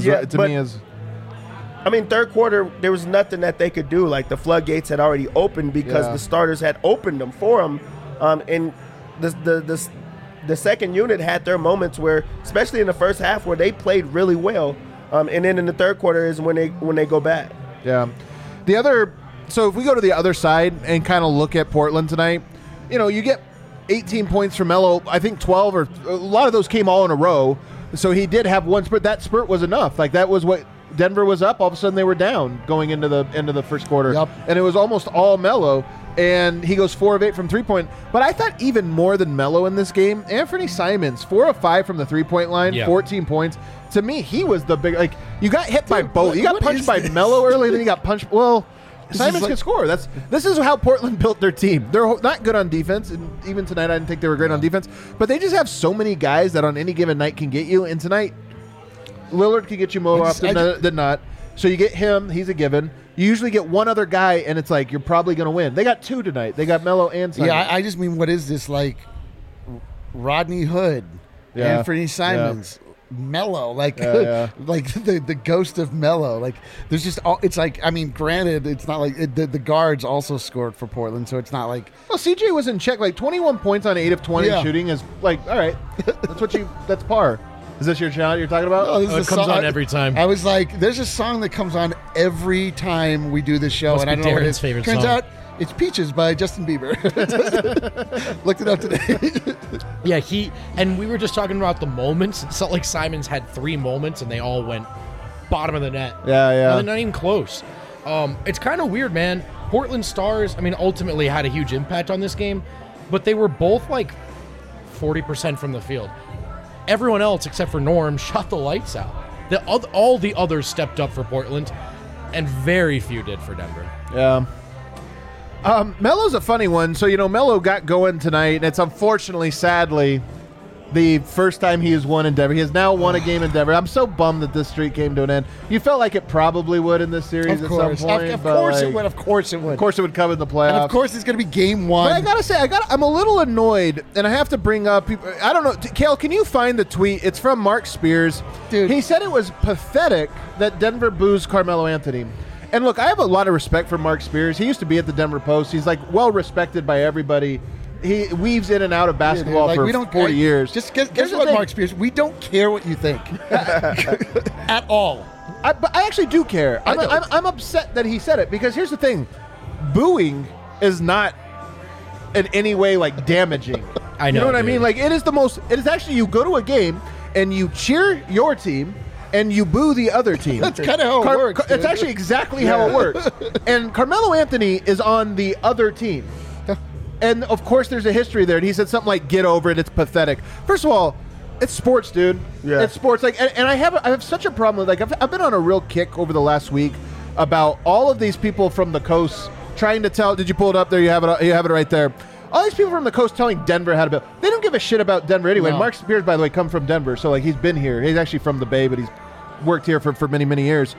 I mean, third quarter, there was nothing that they could do. Like, the floodgates had already opened because the starters had opened them for them. And the second unit had their moments where, especially in the first half, where they played really well. And then in the third quarter is when they go bad. Yeah. So if we go to the other side and kind of look at Portland tonight, you get 18 points from Melo. I think 12 or a lot of those came all in a row. So he did have one spurt. That spurt was enough. Like that was what Denver was up. All of a sudden they were down going into the end of the first quarter. Yep. And it was almost all Melo. And he goes 4 of 8 from 3-point. But I thought even more than Melo in this game, Anthony Simons, 4 of 5 from the 3-point line, 14 points. To me, he was the big, like, you got hit by both. You got punched by Melo early, then you got punched. Well, Simons can score. This is how Portland built their team. They're not good on defense, and even tonight I didn't think they were great on defense. But they just have so many guys that on any given night can get you. And tonight, Lillard can get you more often than not. So you get him. He's a given. You usually get one other guy, and it's like you're probably going to win. They got 2 tonight. They got Melo and Simons. Yeah, I just mean, what is this, like Rodney Hood, Anthony Simons, Melo, like like the ghost of Melo. Like there's just it's like, I mean, granted, it's not like the guards also scored for Portland, so it's not like, well, CJ was in check. Like 21 points on 8 of 20 shooting is like, all right, that's par. Is this your shot you're talking about? Oh, it comes on every time. I was like, there's a song that comes on every time we do this show, Must and I don't know what it is. favorite Turns song. out it's Peaches by Justin Bieber. Looked it up today. Yeah, and we were just talking about the moments. It felt like Simons had 3 moments, and they all went bottom of the net. Yeah. No, they're not even close. It's kind of weird, man. Portland Stars, I mean, ultimately had a huge impact on this game, but they were both like 40% from the field. Everyone else, except for Norm, shot the lights out. All the others stepped up for Portland, and very few did for Denver. Yeah. Melo's a funny one. So, Melo got going tonight, and it's unfortunately, sadly, the first time he has won in Denver. He has now won a game in Denver. I'm so bummed that this streak came to an end. You felt like it probably would in this series at some point. Of course it would. Of course it would. Of course it would come in the playoffs. And of course it's going to be game 1. But I got to say, I'm a little annoyed, and I have to bring up people. I don't know. Kale, can you find the tweet? It's from Mark Spears. Dude. He said it was pathetic that Denver boos Carmelo Anthony. And look, I have a lot of respect for Mark Spears. He used to be at the Denver Post. He's like well respected by everybody. He weaves in and out of basketball like, for we don't 40 years. Just guess what, Mark Spears? We don't care what you think at all. But I actually do care. I'm upset that he said it, because here's the thing: booing is not in any way like damaging. I know. You know what I dude. mean? Like it is actually, you go to a game and you cheer your team and you boo the other team. That's kind of how it works. It's actually exactly how it works. And Carmelo Anthony is on the other team. And, of course, there's a history there. And he said something like, get over it, it's pathetic. First of all, it's sports, dude. Yeah. It's sports. Like, and I have such a problem with, like, I've been on a real kick over the last week about all of these people from the coast trying to tell, did you pull it up there? You have it right there. All these people from the coast telling Denver how to build. They don't give a shit about Denver anyway. No. Mark Spears, by the way, come from Denver. So, like, he's been here. He's actually from the Bay, but he's worked here for many, many years.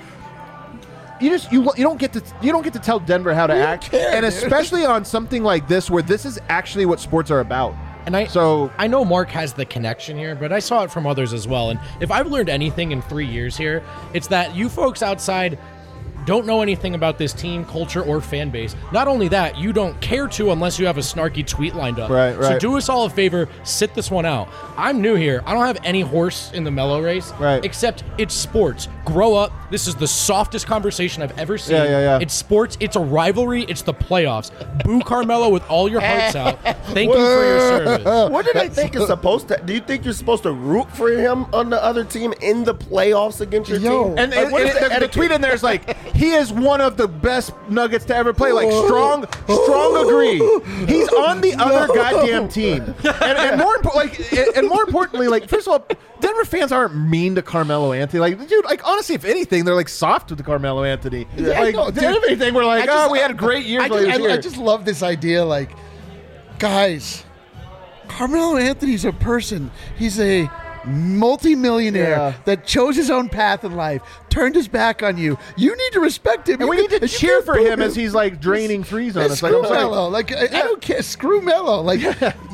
You don't get to tell Denver how to act, and especially on something like this where this is actually what sports are about. And I know Mark has the connection here, but I saw it from others as well. And if I've learned anything in 3 years here, it's that you folks outside don't know anything about this team, culture, or fan base. Not only that, you don't care to unless you have a snarky tweet lined up. Right. So do us all a favor, sit this one out. I'm new here. I don't have any horse in the Melo race. Right. Except it's sports. Grow up. This is the softest conversation I've ever seen. Yeah. It's sports. It's a rivalry. It's the playoffs. Boo Carmelo with all your hearts out. Thank you for your service. What did I think is supposed to? Do you think you're supposed to root for him on the other team in the playoffs against your team? And Like, what is the tweet in there is like, he is one of the best Nuggets to ever play. Like, strong agree. He's on the other goddamn team. And more importantly, like, first of all, Denver fans aren't mean to Carmelo Anthony. Like, dude, like, honestly, if anything, they're like soft with the Carmelo Anthony. Yeah, like, no, dude, if anything, we're like, we had a great year. I just love this idea. Like, guys, Carmelo Anthony's a person. He's a multi-millionaire that chose his own path in life, turned his back on you. You need to respect him. And we need to cheer for him as he's like draining threes on us. Screw Melo. Like, I don't care. Screw Melo. Like,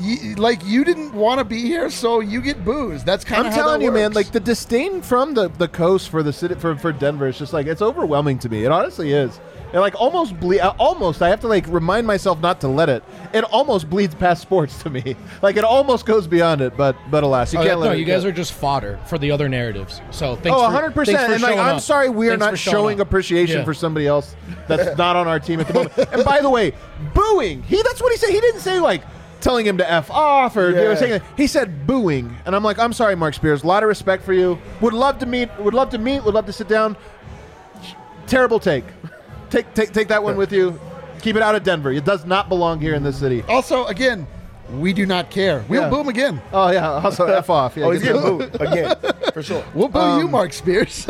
you didn't want to be here, so you get boozed. That's kind of I'm how telling that you, man. works. Like, the disdain from the coast for the city for Denver is just like, it's overwhelming to me. It honestly is. And like almost I have to like remind myself not to let it. It almost bleeds past sports to me. Like, it almost goes beyond it, but alas, you can't let it. No, you guys are just fodder for the other narratives. So thanks. 100%. And like, I'm sorry we are not showing appreciation Yeah. for somebody else that's not on our team at the moment. And by the way, booing. That's what he said. He didn't say like telling him to F off or saying that. He said booing. And I'm like, I'm sorry, Mark Spears. A lot of respect for you. Would love to sit down. Terrible take. Take that one with you. Keep it out of Denver. It does not belong here in this city. Also, again, we do not care. We'll boo him again. Oh, yeah. Also, F off. Yeah, he's getting booed again, for sure. We'll boo you, Mark Spears.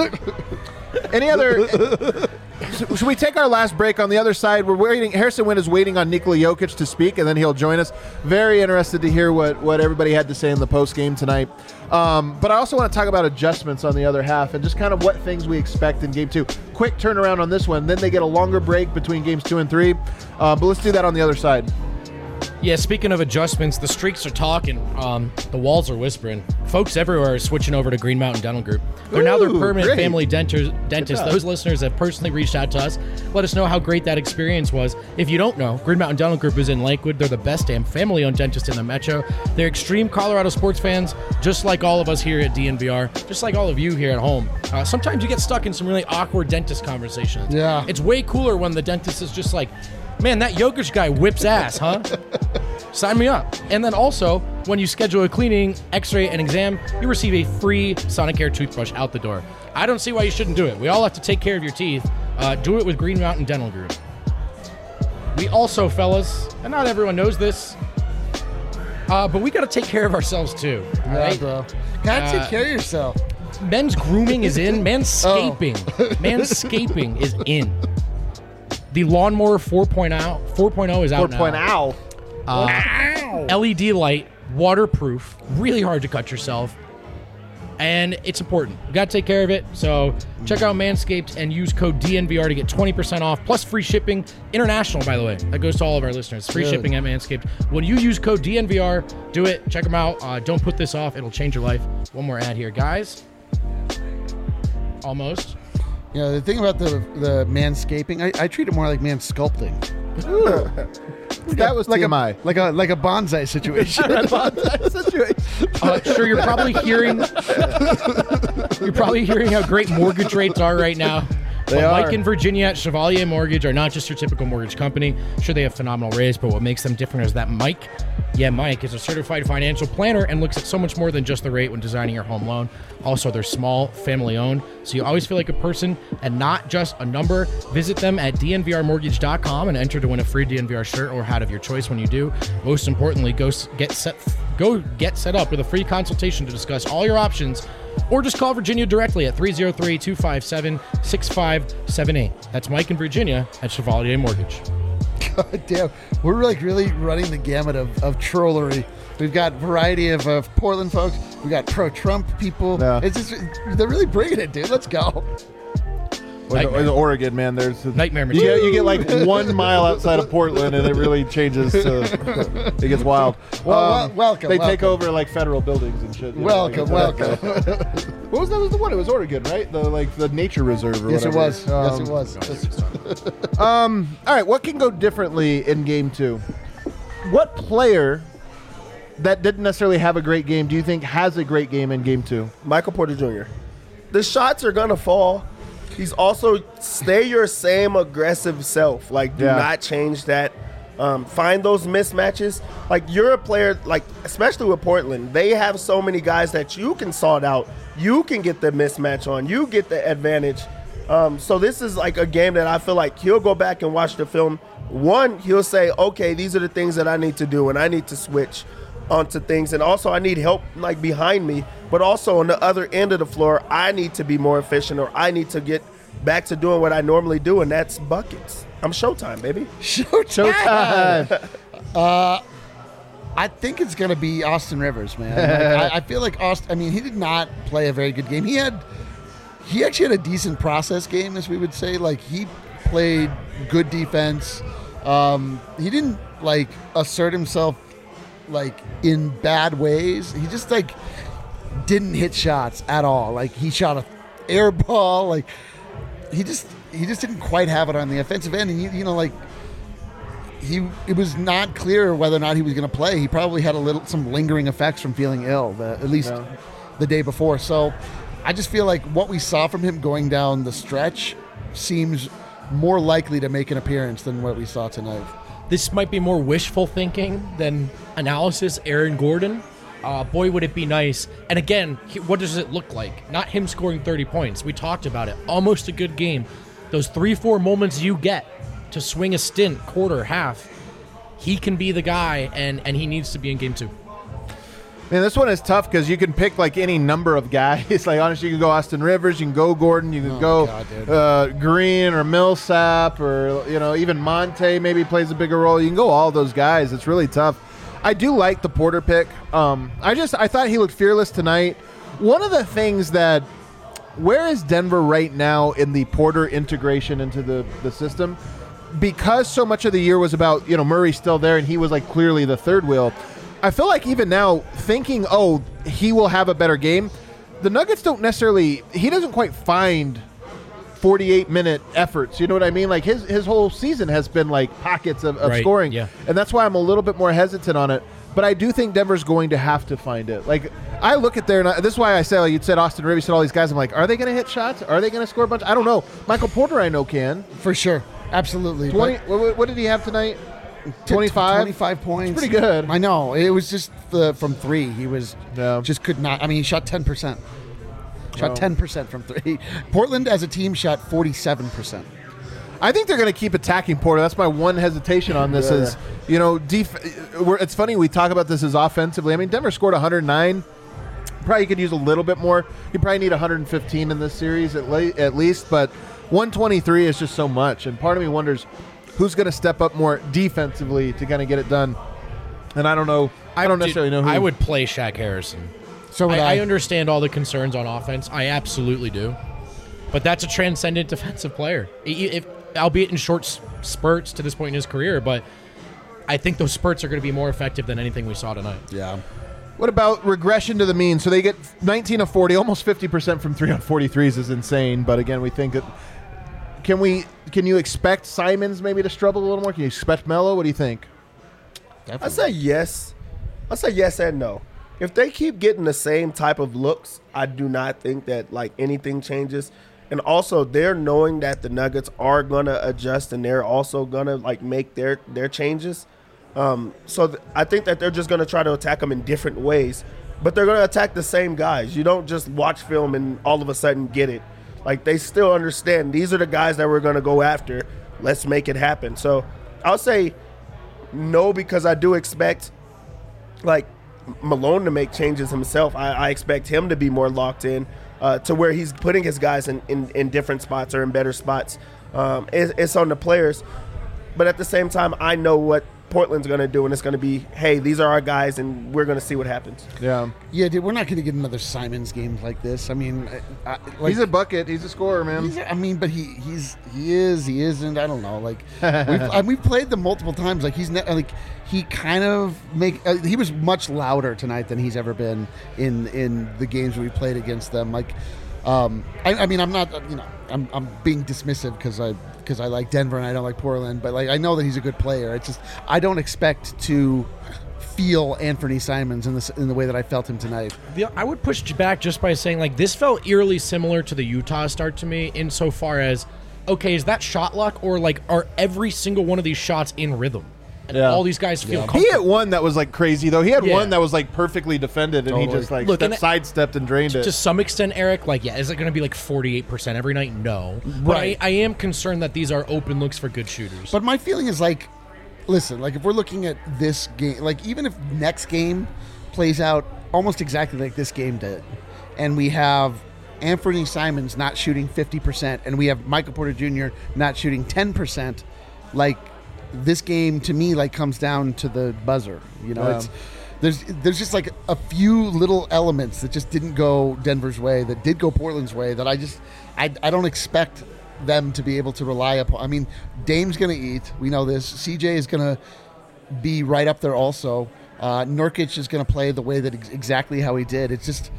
Any other... Should we take our last break? On the other side, we're waiting. Harrison Wind is waiting on Nikola Jokic to speak, and then he'll join us. Very interested to hear what everybody had to say in the post game tonight. But I also want to talk about adjustments on the other half and just kind of what things we expect in Game 2. Quick turnaround on this one. Then they get a longer break between Games 2 and 3. But let's do that on the other side. Yeah, speaking of adjustments, the streaks are talking. The walls are whispering. Folks everywhere are switching over to Green Mountain Dental Group. They're now their permanent family dentist. Those listeners have personally reached out to us. Let us know how great that experience was. If you don't know, Green Mountain Dental Group is in Lakewood. They're the best damn family-owned dentist in the metro. They're extreme Colorado sports fans, just like all of us here at DNVR, just like all of you here at home. Sometimes you get stuck in some really awkward dentist conversations. Yeah. It's way cooler when the dentist is just like, man, that Jokic guy whips ass, huh? Sign me up. And then also, when you schedule a cleaning, x-ray, and exam, you receive a free Sonicare toothbrush out the door. I don't see why you shouldn't do it. We all have to take care of your teeth. Do it with Green Mountain Dental Group. We also, fellas, and not everyone knows this, but we got to take care of ourselves too. Right, bro. Gotta take care of yourself. Men's grooming is in. Manscaping. Manscaping is in. The Lawnmower 4.0 is out now. 4.0. LED light, waterproof, really hard to cut yourself, and it's important. You got to take care of it. So check out Manscaped and use code DNVR to get 20% off, plus free shipping. International, by the way. That goes to all of our listeners. Free shipping at Manscaped. When you use code DNVR, do it. Check them out. Don't put this off. It'll change your life. One more ad here, guys. Almost. You know, the thing about the manscaping, I treat it more like mansculpting. That was like TMI. like a bonsai situation. Sure, you're probably hearing how great mortgage rates are right now. They are. Mike and Virginia at Chevalier Mortgage are not just your typical mortgage company. Sure, they have phenomenal rates, but what makes them different is that Mike is a certified financial planner and looks at so much more than just the rate when designing your home loan. Also, they're small, family-owned, so you always feel like a person and not just a number. Visit them at dnvrmortgage.com and enter to win a free DNVR shirt or hat of your choice when you do. Most importantly, go get set up with a free consultation to discuss all your options, or just call Virginia directly at 303-257-6578. That's Mike and Virginia at Chevalier Mortgage. God damn, we're like really running the gamut of trollery. We've got variety of Portland folks. We got pro-Trump people. Yeah. It's just, they're really bringing it, dude. Let's go. Or the Oregon, man. There's nightmare material. You get like 1 mile outside of Portland, and it really changes. It gets wild. Welcome. They take over like federal buildings and shit. Welcome. What was that? Was the one? It was Oregon, right? The nature reserve. Or Yes, whatever. it was. All right. What can go differently in Game 2? What player that didn't necessarily have a great game do you think has a great game in Game 2? Michael Porter Jr. The shots are gonna fall. He's also stay your same aggressive self. Like, do not change that. Find those mismatches. Like, you're a player, like, especially with Portland, they have so many guys that you can sort out. You can get the mismatch on. You get the advantage. So this is like a game that I feel like he'll go back and watch the film. One, he'll say, okay, these are the things that I need to do, and I need to switch onto things. And also I need help, like, behind me. But also on the other end of the floor, I need to be more efficient, or I need to get back to doing what I normally do, and that's buckets. I'm Showtime, baby. Showtime. I think it's going to be Austin Rivers, man. I feel like Austin, I mean, he did not play a very good game. He actually had a decent process game, as we would say. Like, he played good defense. He didn't, like, assert himself, like, in bad ways. He just, like, didn't hit shots at all. Like, he shot a air ball. Like, he just didn't quite have it on the offensive end. And, you know, like, it was not clear whether or not he was going to play. He probably had some lingering effects from feeling ill, at least the day before. So I just feel like what we saw from him going down the stretch seems more likely to make an appearance than what we saw tonight. This might be more wishful thinking than analysis. Aaron Gordon, boy, would it be nice. And again, what does it look like? Not him scoring 30 points. We talked about it. Almost a good game. Those 3-4 moments you get to swing a stint, quarter, half, he can be the guy, and he needs to be in Game 2. Man, this one is tough because you can pick like any number of guys. Like, honestly, you can go Austin Rivers, you can go Gordon, you can Green or Millsap, or, you know, even Monte maybe plays a bigger role. You can go all those guys. It's really tough. I do like the Porter pick. I thought he looked fearless tonight. One of the things that, where is Denver right now in the Porter integration into the system? because so much of the year was about, Murray still there and he was like clearly the third wheel, I feel like even now thinking, he will have a better game, the Nuggets don't necessarily, he doesn't quite find 48-minute efforts. You know what I mean? Like his whole season has been like pockets of scoring. Yeah. And that's why I'm a little bit more hesitant on it. But I do think Denver's going to have to find it. Like, I look at there, and this is why I say, like, you'd said Austin Reeves, said all these guys. I'm like, are they going to hit shots? Are they going to score a bunch? I don't know. Michael Porter, I know, can. For sure. Absolutely. 20. What did he have tonight? 25? 25 points. It's pretty good. I know. It was just from three. He was just could not. I mean, he shot 10%. Shot 10% from three. Portland, as a team, shot 47%. I think they're going to keep attacking Porter. That's my one hesitation on this is, it's funny we talk about this as offensively. I mean, Denver scored 109. Probably could use a little bit more. You probably need 115 in this series at least, but 123 is just so much. And part of me wonders who's going to step up more defensively to kind of get it done. And I don't know. I don't necessarily know who. I would play Shaq Harrison. So I understand all the concerns on offense. I absolutely do. But that's a transcendent defensive player. Albeit in short spurts to this point in his career, but I think those spurts are going to be more effective than anything we saw tonight. Yeah. What about regression to the mean? So they get 19 of 40, almost 50% from 3 on 43s is insane. But again, we think that can you expect Simons maybe to struggle a little more? Can you expect Melo? What do you think? Definitely. I say yes. I say yes and no. If they keep getting the same type of looks, I do not think that like anything changes. And also, they're knowing that the Nuggets are gonna adjust and they're also gonna like make their changes. I think that they're just gonna try to attack them in different ways, but they're gonna attack the same guys. You don't just watch film and all of a sudden get it. Like they still understand these are the guys that we're gonna go after. Let's make it happen. So I'll say no because I do expect like Malone to make changes himself. I expect him to be more locked in. To where he's putting his guys in different spots or in better spots. It's on the players. But at the same time, I know what Portland's going to do, and it's going to be, hey, these are our guys, and we're going to see what happens. Yeah. Yeah, dude, we're not going to get another Simons game like this. I mean, he's a bucket. He's a scorer, man. But he isn't. I don't know. Like, we've played them multiple times. Like, he kind of he was much louder tonight than he's ever been in the games we played against them. Like, I mean, I'm not, I'm being dismissive because I like Denver and I don't like Portland, but like I know that he's a good player. It's just I don't expect to feel Anthony Simons in the way that I felt him tonight. I would push back just by saying like this felt eerily similar to the Utah start to me insofar as, okay, is that shot luck or like are every single one of these shots in rhythm? And all these guys feel comfortable. He had one that was like crazy though. He had one that was like perfectly defended and he just like sidestepped and drained it. To some extent, Eric, like is it going to be like 48% every night? No. Right. But I am concerned that these are open looks for good shooters. But my feeling is like, listen, like if we're looking at this game, like even if next game plays out almost exactly like this game did, and we have Anthony Simons not shooting 50%, and we have Michael Porter Jr. not shooting 10%, like this game to me like comes down to the buzzer. It's there's just like a few little elements that just didn't go Denver's way, that did go Portland's way, that I don't expect them to be able to rely upon. I mean, Dame's going to eat. We know this. CJ is going to be right up there also. Nurkic is going to play the way that exactly how he did. It's just,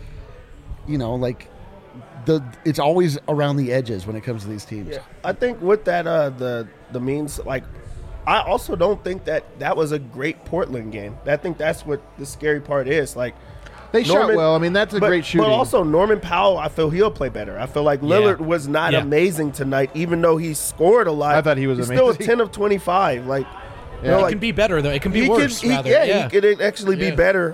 like it's always around the edges when it comes to these teams. Yeah. I think with that, the means, like, I also don't think that was a great Portland game. I think that's what the scary part is. Like, they shot well. I mean, that's a great shooting. But also, Norman Powell, I feel he'll play better. I feel like Lillard was not amazing tonight, even though he scored a lot. I thought he was amazing. Still a 10 of 25. Like, it can be better, though. It can be worse, rather. He could actually be better.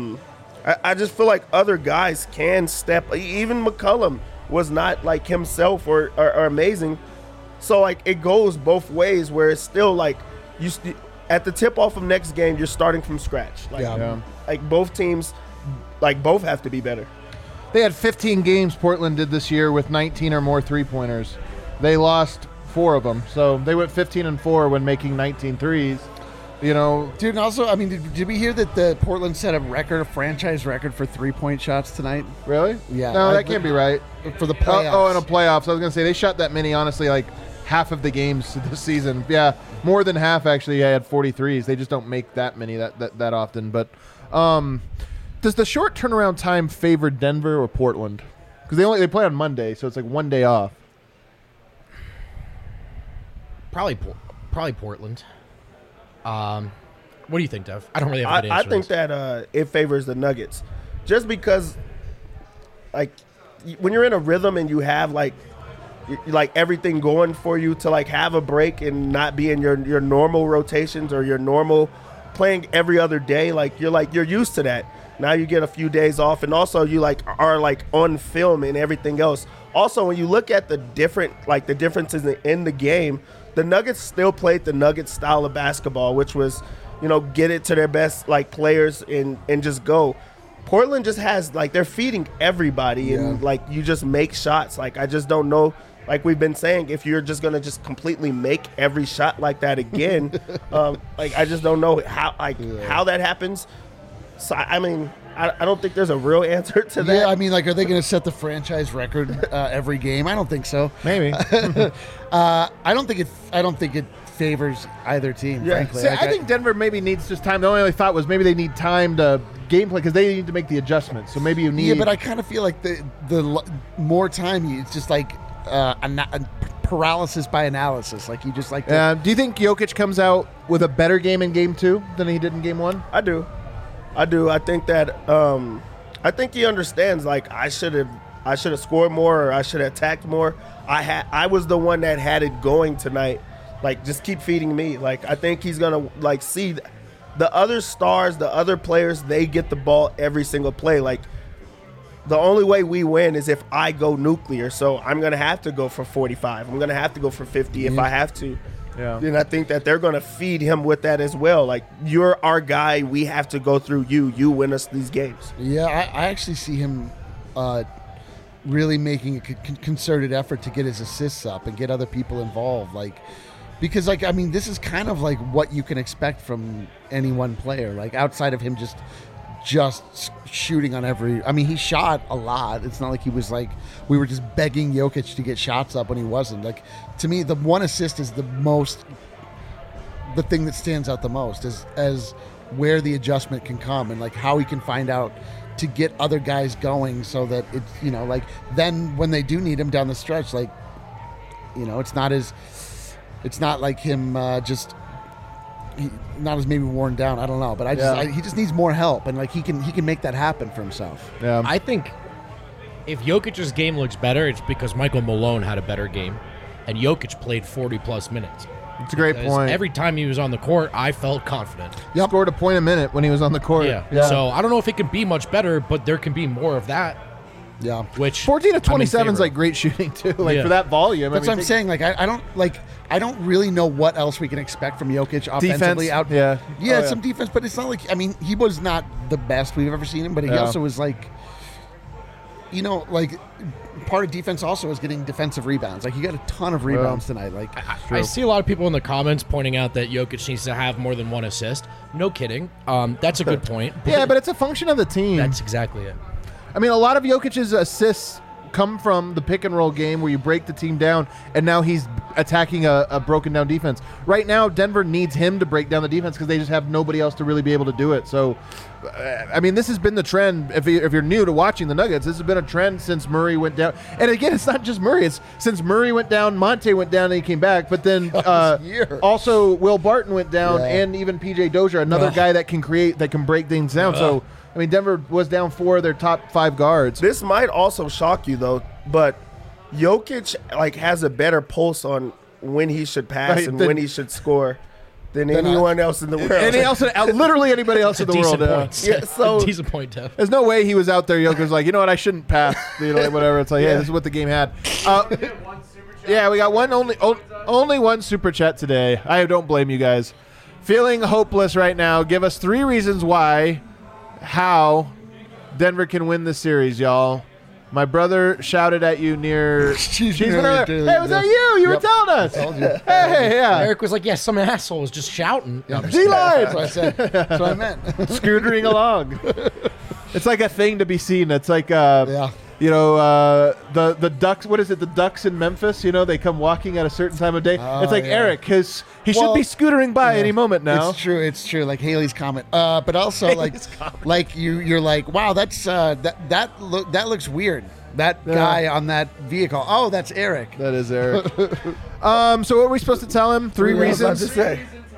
I just feel like other guys can step. Even McCollum was not like himself or amazing. So, like, it goes both ways where it's still, like, at the tip-off of next game, you're starting from scratch. Like, both teams, like, both have to be better. They had 15 games Portland did this year with 19 or more three-pointers. They lost 4 of them. So, they went 15-4 when making 19 threes. Dude, and also, I mean, did we hear that the Portland set a franchise record for three-point shots tonight? Really? Yeah. No, that can't be right. For the playoffs. In a playoffs. I was going to say, they shot that many, honestly, like, half of the games this season. Yeah, more than half actually. I had 43s. They just don't make that many that often. But does the short turnaround time favor Denver or Portland? Because they play on Monday, so it's like 1 day off. Probably Portland. What do you think, Dev? I don't really have a good answer. I think that it favors the Nuggets, just because, like, when you're in a rhythm and you have like everything going for you to like have a break and not be in your normal rotations or your normal playing every other day, you're used to that. Now you get a few days off, and also you are on film and everything else. Also, when you look at the differences in the game, the Nuggets still played the Nuggets style of basketball, which was, get it to their best players and just go. Portland just has they're feeding everybody, and you just make shots. I just don't know, like we've been saying, if you're just gonna just completely make every shot like that again. I just don't know how that happens. So I mean, I don't think there's a real answer to that. Yeah, I mean, are they going to set the franchise record every game? I don't think so. Maybe. I don't think it favors either team. Yeah. Frankly, See, I think Denver maybe needs just time. The only thought was maybe they need time to gameplay because they need to make the adjustments. So maybe you need. Yeah, but I kind of feel like the more time, it's just a paralysis by analysis. You just do you think Jokic comes out with a better game in Game 2 than he did in Game 1? I do. I think that I think he understands. I should have scored more, or I should have attacked more. I was the one that had it going tonight. Just keep feeding me. I think he's gonna see the other stars, the other players. They get the ball every single play. The only way we win is if I go nuclear. So I'm gonna have to go for 45. I'm gonna have to go for 50 if I have to. Yeah. And I think that they're going to feed him with that as well. You're our guy. We have to go through you. You win us these games. Yeah, I actually see him really making a concerted effort to get his assists up and get other people involved. Because this is kind of what you can expect from any one player. Outside of him just shooting on every. He shot a lot. It's not like he was we were just begging Jokic to get shots up when he wasn't. To me, the one assist is the thing that stands out the most as where the adjustment can come and how he can find out to get other guys going so that it's then when they do need him down the stretch, it's not like him not as maybe worn down. I don't know, but he just needs more help, and he can make that happen for himself. Yeah. I think if Jokic's game looks better, it's because Michael Malone had a better game, and Jokic played 40-plus minutes. It's a great point. Every time he was on the court, I felt confident. Yep. Scored a point a minute when he was on the court. Yeah. So I don't know if it can be much better, but there can be more of that. Yeah. Which 14 of 27 is great shooting too. For that volume. That's what I'm saying. I don't really know what else we can expect from Jokic offensively. Defense. Some defense, but it's not he was not the best we've ever seen him, but he also was part of defense also is getting defensive rebounds. He got a ton of rebounds tonight. I see a lot of people in the comments pointing out that Jokic needs to have more than one assist. No kidding. That's a good point. Yeah, but it's a function of the team. That's exactly it. A lot of Jokic's assists come from the pick and roll game where you break the team down, and now he's attacking a broken down defense. Right now, Denver needs him to break down the defense because they just have nobody else to really be able to do it. So, this has been the trend. If you're new to watching the Nuggets, this has been a trend since Murray went down. And again, it's not just Murray. It's since Murray went down, Monte went down, and he came back. But then also Will Barton went down, and even PJ Dozier, another guy that can create, that can break things down. So. Denver was down 4 of their top 5 guards. This might also shock you, though, but Jokic has a better pulse on when he should pass and when he should score than anyone else in the world. Literally anybody else in the world. Decent point, Tev. There's no way he was out there. Jokic was you know what? I shouldn't pass. Whatever. It's this is what the game had. Yeah, we got only one super chat today. I don't blame you guys. Feeling hopeless right now. Give us 3 reasons how Denver can win this series, y'all. My brother shouted at you near. Hey, was that you? You were telling us. I told you. Hey, yeah. Eric was like, some asshole was just shouting. D-line. That's what I said. That's what I meant. Scootering along. It's like a thing to be seen. It's like, the Ducks. What is it? The Ducks in Memphis. They come walking at a certain time of day. It's like Eric, because he should be scootering by any moment now. It's true. Like Haley's comment, but also like you're like, wow, that's that looks weird. That guy on that vehicle. Oh, that's Eric. That is Eric. So what are we supposed to tell him? 3 reasons. To say.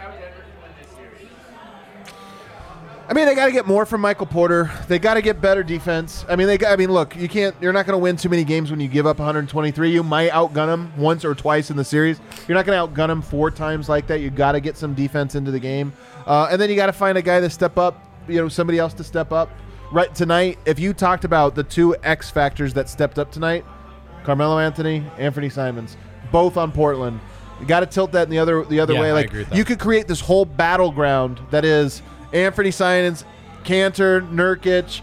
I mean, they got to get more from Michael Porter. They got to get better defense. I mean, look, you're not going to win too many games when you give up 123. You might outgun them once or twice in the series. You're not going to outgun them 4 times like that. You got to get some defense into the game, and then you got to find a guy to step up. Somebody else to step up. Right tonight, if you talked about the 2 X factors that stepped up tonight, Carmelo Anthony, Anthony Simons, both on Portland. You got to tilt that in the other way. Like, you could create this whole battleground that is Anthony Simons, Cantor, Nurkic,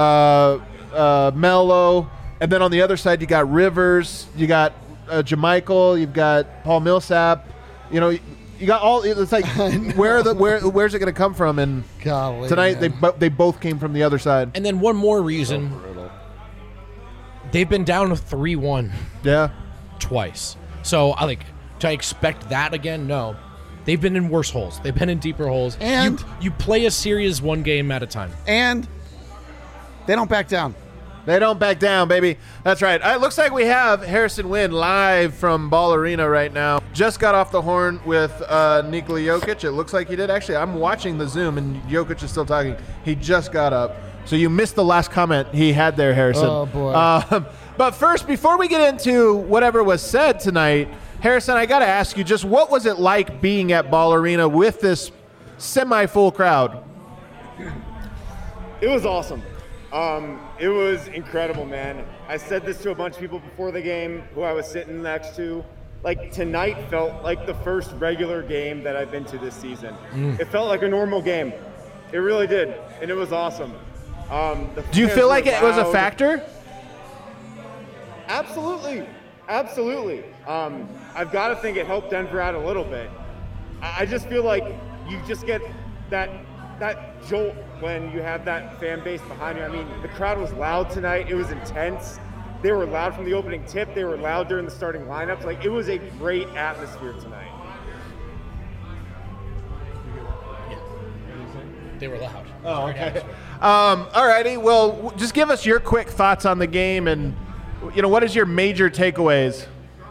Melo, and then on the other side you got Rivers, you got JaMychal, you've got Paul Millsap. You got all. It's like where's it going to come from? And golly, tonight they both came from the other side. And then one more reason, they've been down 3-1. Yeah, twice. So I expect that again? No. They've been in worse holes. They've been in deeper holes. And you play a series one game at a time. And they don't back down. They don't back down, baby. That's right. It looks like we have Harrison Wind live from Ball Arena right now. Just got off the horn with Nikola Jokic. It looks like he did. Actually, I'm watching the Zoom, and Jokic is still talking. He just got up. So you missed the last comment he had there, Harrison. Oh, boy. But first, before we get into whatever was said tonight, Harrison, I got to ask you, just what was it like being at Ball Arena with this semi-full crowd? It was awesome. It was incredible, man. I said this to a bunch of people before the game who I was sitting next to. Like, tonight felt like the first regular game that I've been to this season. It felt like a normal game. It really did, and it was awesome. Do you feel like it was a factor? Absolutely. Absolutely. I've got to think it helped Denver out a little bit. I just feel like you just get that jolt when you have that fan base behind you. I mean, the crowd was loud tonight. It was intense. They were loud from the opening tip. They were loud during the starting lineups. Like, it was a great atmosphere tonight. Yeah. They were loud. Oh, okay. All righty. Well, just give us your quick thoughts on the game, and what is your major takeaways?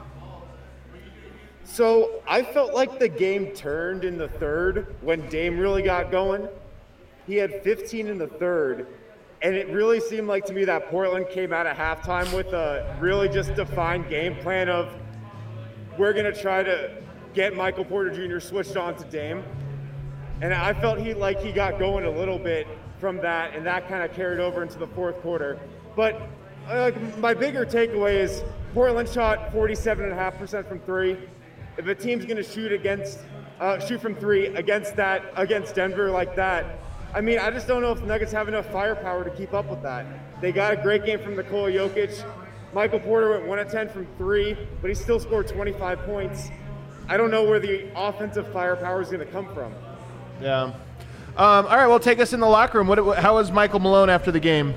So I felt like the game turned in the third when Dame really got going. He had 15 in the third, and it really seemed like to me that Portland came out at halftime with a really just defined game plan of, we're going to try to get Michael Porter Jr. switched on to Dame. And I felt he got going a little bit from that, and that kind of carried over into the fourth quarter. But my bigger takeaway is Portland shot 47.5% from three. If a team's going to shoot from three against Denver like that, I mean, I just don't know if the Nuggets have enough firepower to keep up with that. They got a great game from Nikola Jokic. Michael Porter went 1 of 10 from three, but he still scored 25 points. I don't know where the offensive firepower is going to come from. Yeah. All right, well, take us in the locker room. How was Michael Malone after the game?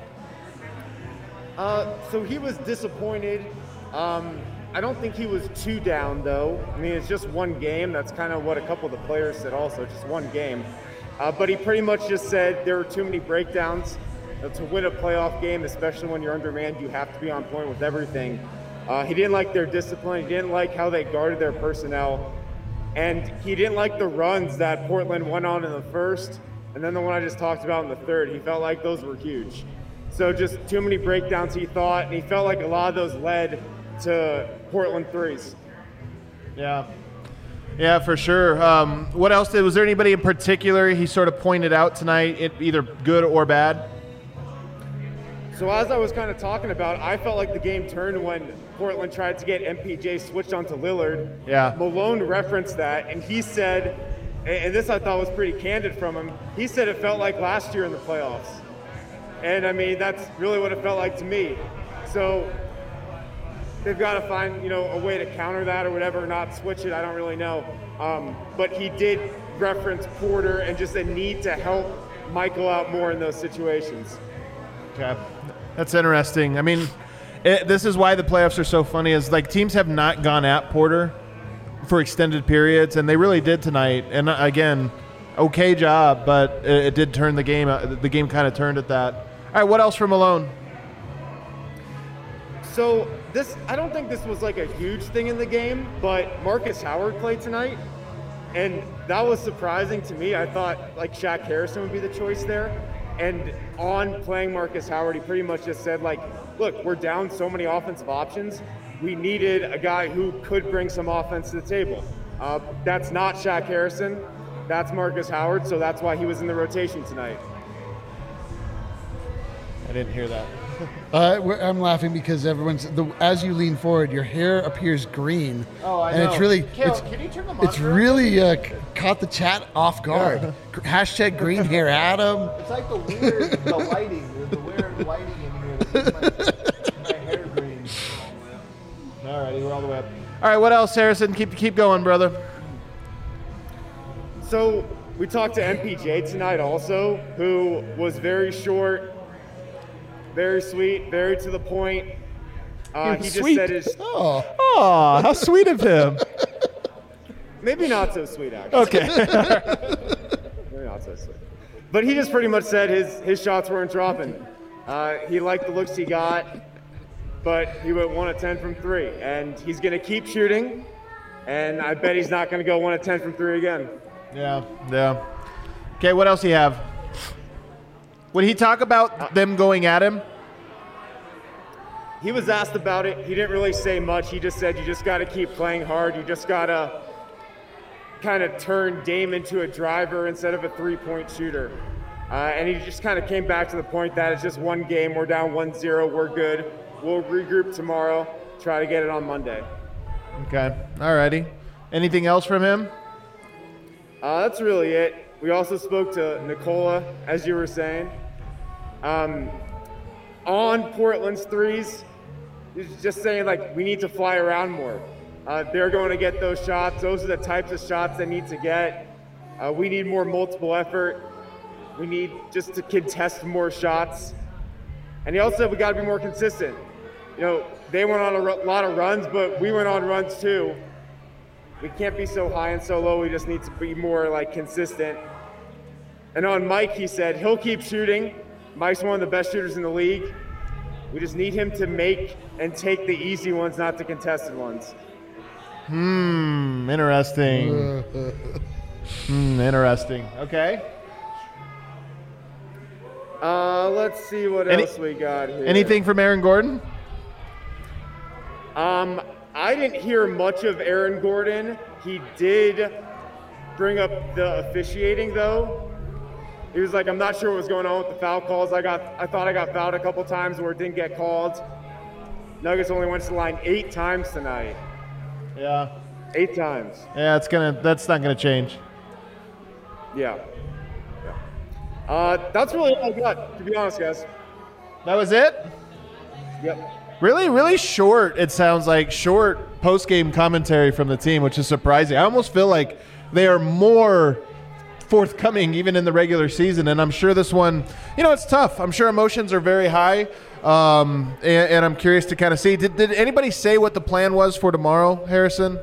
So he was disappointed. I don't think he was too down, though. I mean, it's just one game. That's kind of what a couple of the players said also, just one game. But he pretty much just said there were too many breakdowns. To win a playoff game, especially when you're undermanned, you have to be on point with everything. He didn't like their discipline. He didn't like how they guarded their personnel. And he didn't like the runs that Portland went on in the first, and then the one I just talked about in the third. He felt like those were huge. So just too many breakdowns, he thought, and he felt like a lot of those led to Portland threes. Yeah. Yeah, for sure. What else was there anybody in particular he sort of pointed out tonight, either good or bad? So as I was kind of talking about, I felt like the game turned when Portland tried to get MPJ switched onto Lillard. Yeah. Malone referenced that, and he said, and this I thought was pretty candid from him, he said it felt like last year in the playoffs. And I mean, that's really what it felt like to me. So they've got to find, a way to counter that or whatever, or not switch it, I don't really know. But he did reference Porter and just a need to help Michael out more in those situations. Okay. That's interesting. I mean, this is why the playoffs are so funny. Is like teams have not gone at Porter for extended periods, and they really did tonight. And again, okay job, but it did turn the game. The game kind of turned at that. All right, what else from Malone? So I don't think this was like a huge thing in the game, but Marcus Howard played tonight, and that was surprising to me. I thought like Shaq Harrison would be the choice there, and on playing Marcus Howard, he pretty much just said like, look, we're down so many offensive options. We needed a guy who could bring some offense to the table. That's not Shaq Harrison. That's Marcus Howard, so that's why he was in the rotation tonight. I didn't hear that. I'm laughing because as you lean forward, your hair appears green. Oh, I and know. It's really, Can you turn the monitor it's really caught the chat off guard. Yeah. Hashtag green hair Adam. It's like the lighting. There's the weird lighting in here that makes my hair green. All righty, we're all the way up. All right, what else, Harrison? Keep going, brother. So we talked to MPJ tonight also, who was very short, very sweet, very to the point. He just said his... Oh, how sweet of him. Maybe not so sweet, actually. Okay. Maybe not so sweet. But he just pretty much said his shots weren't dropping. He liked the looks he got, but he went 1 of 10 from 3. And he's going to keep shooting, and I bet he's not going to go 1 of 10 from 3 again. Yeah. Okay, what else do you have? Would he talk about them going at him? He was asked about it. He didn't really say much. He just said, you just got to keep playing hard. You just got to kind of turn Dame into a driver instead of a three-point shooter. And he just kind of came back to the point that it's just one game. We're down 1-0. We're good. We'll regroup tomorrow, try to get it on Monday. Okay. All righty. Anything else from him? That's really it. We also spoke to Nikola, as you were saying. On Portland's threes, he's just saying, like, we need to fly around more. They're going to get those shots. Those are the types of shots they need to get. We need more multiple effort. We need just to contest more shots. And he also said we got to be more consistent. You know, they went on a lot of runs, but we went on runs too. We can't be so high and so low. We just need to be more like consistent. And on Mike, he said he'll keep shooting. Mike's one of the best shooters in the league. We just need him to make and take the easy ones, not the contested ones. Interesting. Interesting. Okay. Let's see what else we got here. Anything from Aaron Gordon? I didn't hear much of Aaron Gordon. He did bring up the officiating, though. He was like, I'm not sure what was going on with the foul calls. I thought I got fouled a couple times where it didn't get called. Nuggets only went to the line 8 times tonight. Yeah. 8 times. Yeah, that's not gonna change. Yeah. That's really all I got, to be honest, guys. That was it? Yep. Really, really short, it sounds like, short post-game commentary from the team, which is surprising. I almost feel like they are more forthcoming even in the regular season, and I'm sure this one, it's tough. I'm sure emotions are very high, and I'm curious to kind of see. Did anybody say what the plan was for tomorrow, Harrison?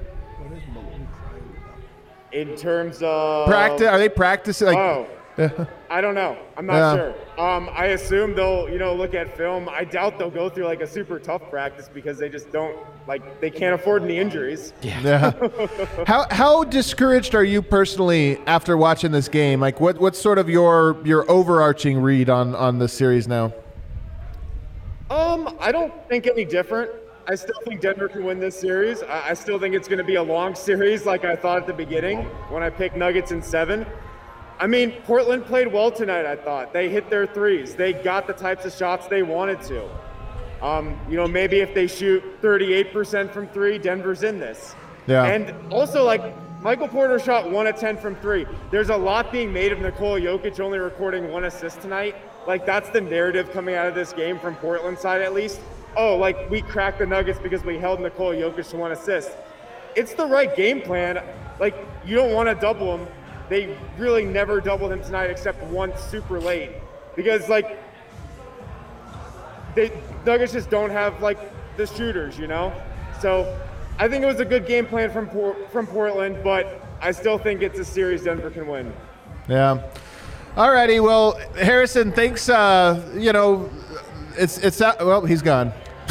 In terms of... Practice? Are they practicing? I don't know. I'm not sure. I assume they'll, look at film. I doubt they'll go through like a super tough practice because they just don't, they can't afford any injuries. Yeah. How discouraged are you personally after watching this game? Like, what's sort of your overarching read on this series now? I don't think any different. I still think Denver can win this series. I still think it's going to be a long series like I thought at the beginning when I picked Nuggets in 7. I mean, Portland played well tonight, I thought. They hit their threes. They got the types of shots they wanted to. Maybe if they shoot 38% from 3, Denver's in this. Yeah. And also, Michael Porter shot 1 of 10 from 3. There's a lot being made of Nikola Jokic only recording 1 assist tonight. That's the narrative coming out of this game from Portland's side, at least. We cracked the Nuggets because we held Nikola Jokic to 1 assist. It's the right game plan. You don't want to double him. They really never doubled him tonight except once super late. Because, Nuggets just don't have like the shooters, you know. So I think it was a good game plan from Portland, but I still think it's a series Denver can win. Yeah. Alrighty. Well, Harrison, thanks. Well, he's gone.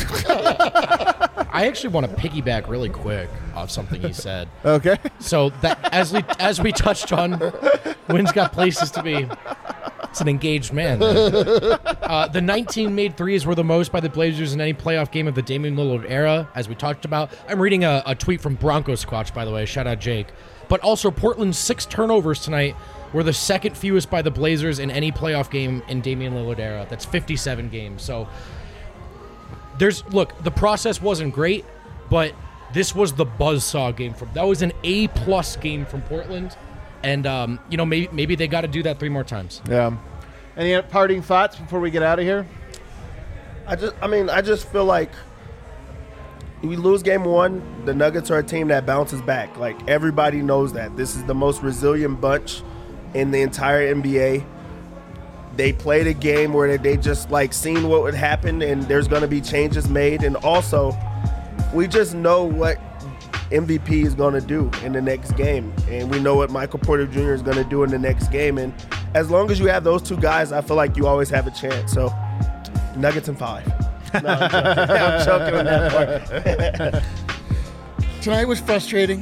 I actually want to piggyback really quick off something he said. Okay. So that as we touched on, Wynn's got places to be. It's an engaged man. The 19 made threes were the most by the Blazers in any playoff game of the Damian Lillard era, as we talked about. I'm reading a tweet from Broncos Squatch, by the way. Shout out Jake. But also, Portland's 6 turnovers tonight were the second fewest by the Blazers in any playoff game in Damian Lillard era. That's 57 games. So look, the process wasn't great, but this was the buzzsaw game that was an A+ game from Portland. And, maybe they got to do that 3 more times. Yeah. Any parting thoughts before we get out of here? I just feel like we lose game 1, the Nuggets are a team that bounces back. Like, everybody knows that. This is the most resilient bunch in the entire NBA. They played a game where they just, like, seen what would happen, and there's going to be changes made. And also, we just know what MVP is going to do in the next game, and we know what Michael Porter Jr. is going to do in the next game. And as long as you have those 2 guys, I feel like you always have a chance. So Nuggets in 5. No, I'm joking on that part. Tonight was frustrating.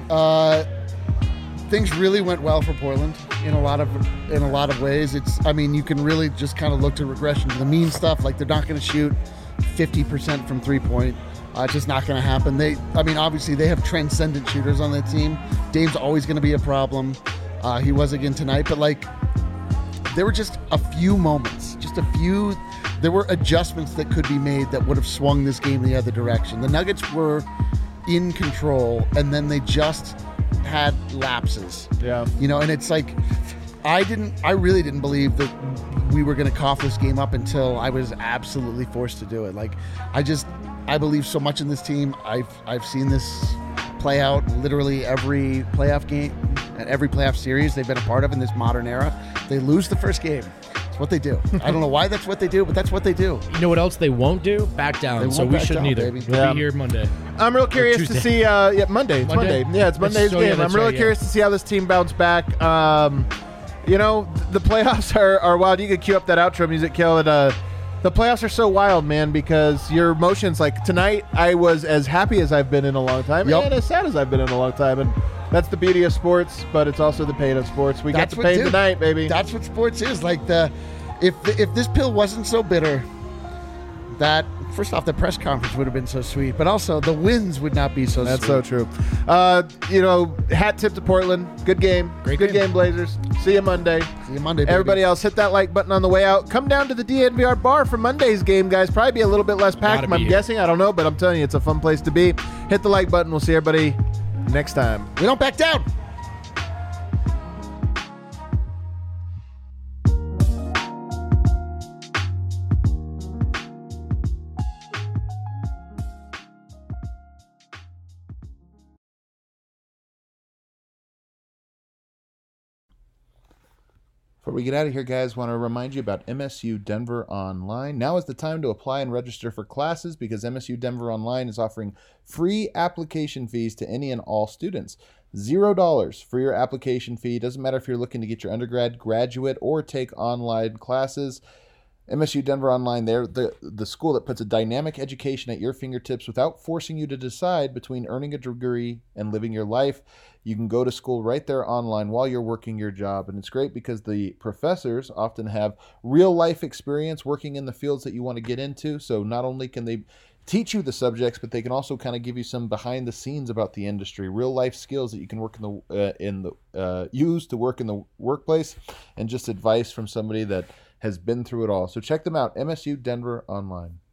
Things really went well for Portland in a lot of ways. You can really just kind of look to regression to the mean stuff. Like, they're not going to shoot 50% from 3-point. It's just not going to happen. Obviously they have transcendent shooters on that team. Dame's always going to be a problem. He was again tonight, but there were just a few moments, there were adjustments that could be made that would have swung this game the other direction. The Nuggets were in control, and then they just had lapses. Yeah. And it's like, I really didn't believe that we were going to cough this game up until I was absolutely forced to do it. I believe so much in this team. I've seen this play out literally every playoff game and every playoff series they've been a part of in this modern era. They lose the first game. It's what they do. I don't know why that's what they do, but that's what they do. You know what else they won't do? Back down. So we shouldn't either. Baby. We'll be here Monday. I'm real curious to see. Monday. It's Monday. Yeah, it's Monday's game. I'm really curious to see how this team bounce back. The playoffs are wild. You could cue up that outro music, Kel. The playoffs are so wild, man, because your emotions, like tonight, I was as happy as I've been in a long time and as sad as I've been in a long time. And that's the beauty of sports, but it's also the pain of sports. We got the pain tonight, baby. That's what sports is. If this pill wasn't so bitter, first off, the press conference would have been so sweet, but also the wins would not be so sweet. That's so true. Hat tip to Portland. Good game. Good game, Blazers. See you Monday. Baby. Everybody else, hit that like button on the way out. Come down to the DNVR bar for Monday's game, guys. Probably be a little bit less packed, I'm guessing. I don't know, but I'm telling you, it's a fun place to be. Hit the like button. We'll see everybody next time. We don't back down. Before we get out of here, guys, want to remind you about MSU Denver Online. Now is the time to apply and register for classes because MSU Denver Online is offering free application fees to any and all students. $0 for your application fee. Doesn't matter if you're looking to get your undergrad, graduate, or take online classes. MSU Denver Online, they're the school that puts a dynamic education at your fingertips without forcing you to decide between earning a degree and living your life. You can go to school right there online while you're working your job. And it's great because the professors often have real life experience working in the fields that you want to get into. So not only can they teach you the subjects, but they can also kind of give you some behind the scenes about the industry, real life skills that you can work use to work in the workplace, and just advice from somebody that has been through it all. So check them out, MSU Denver Online.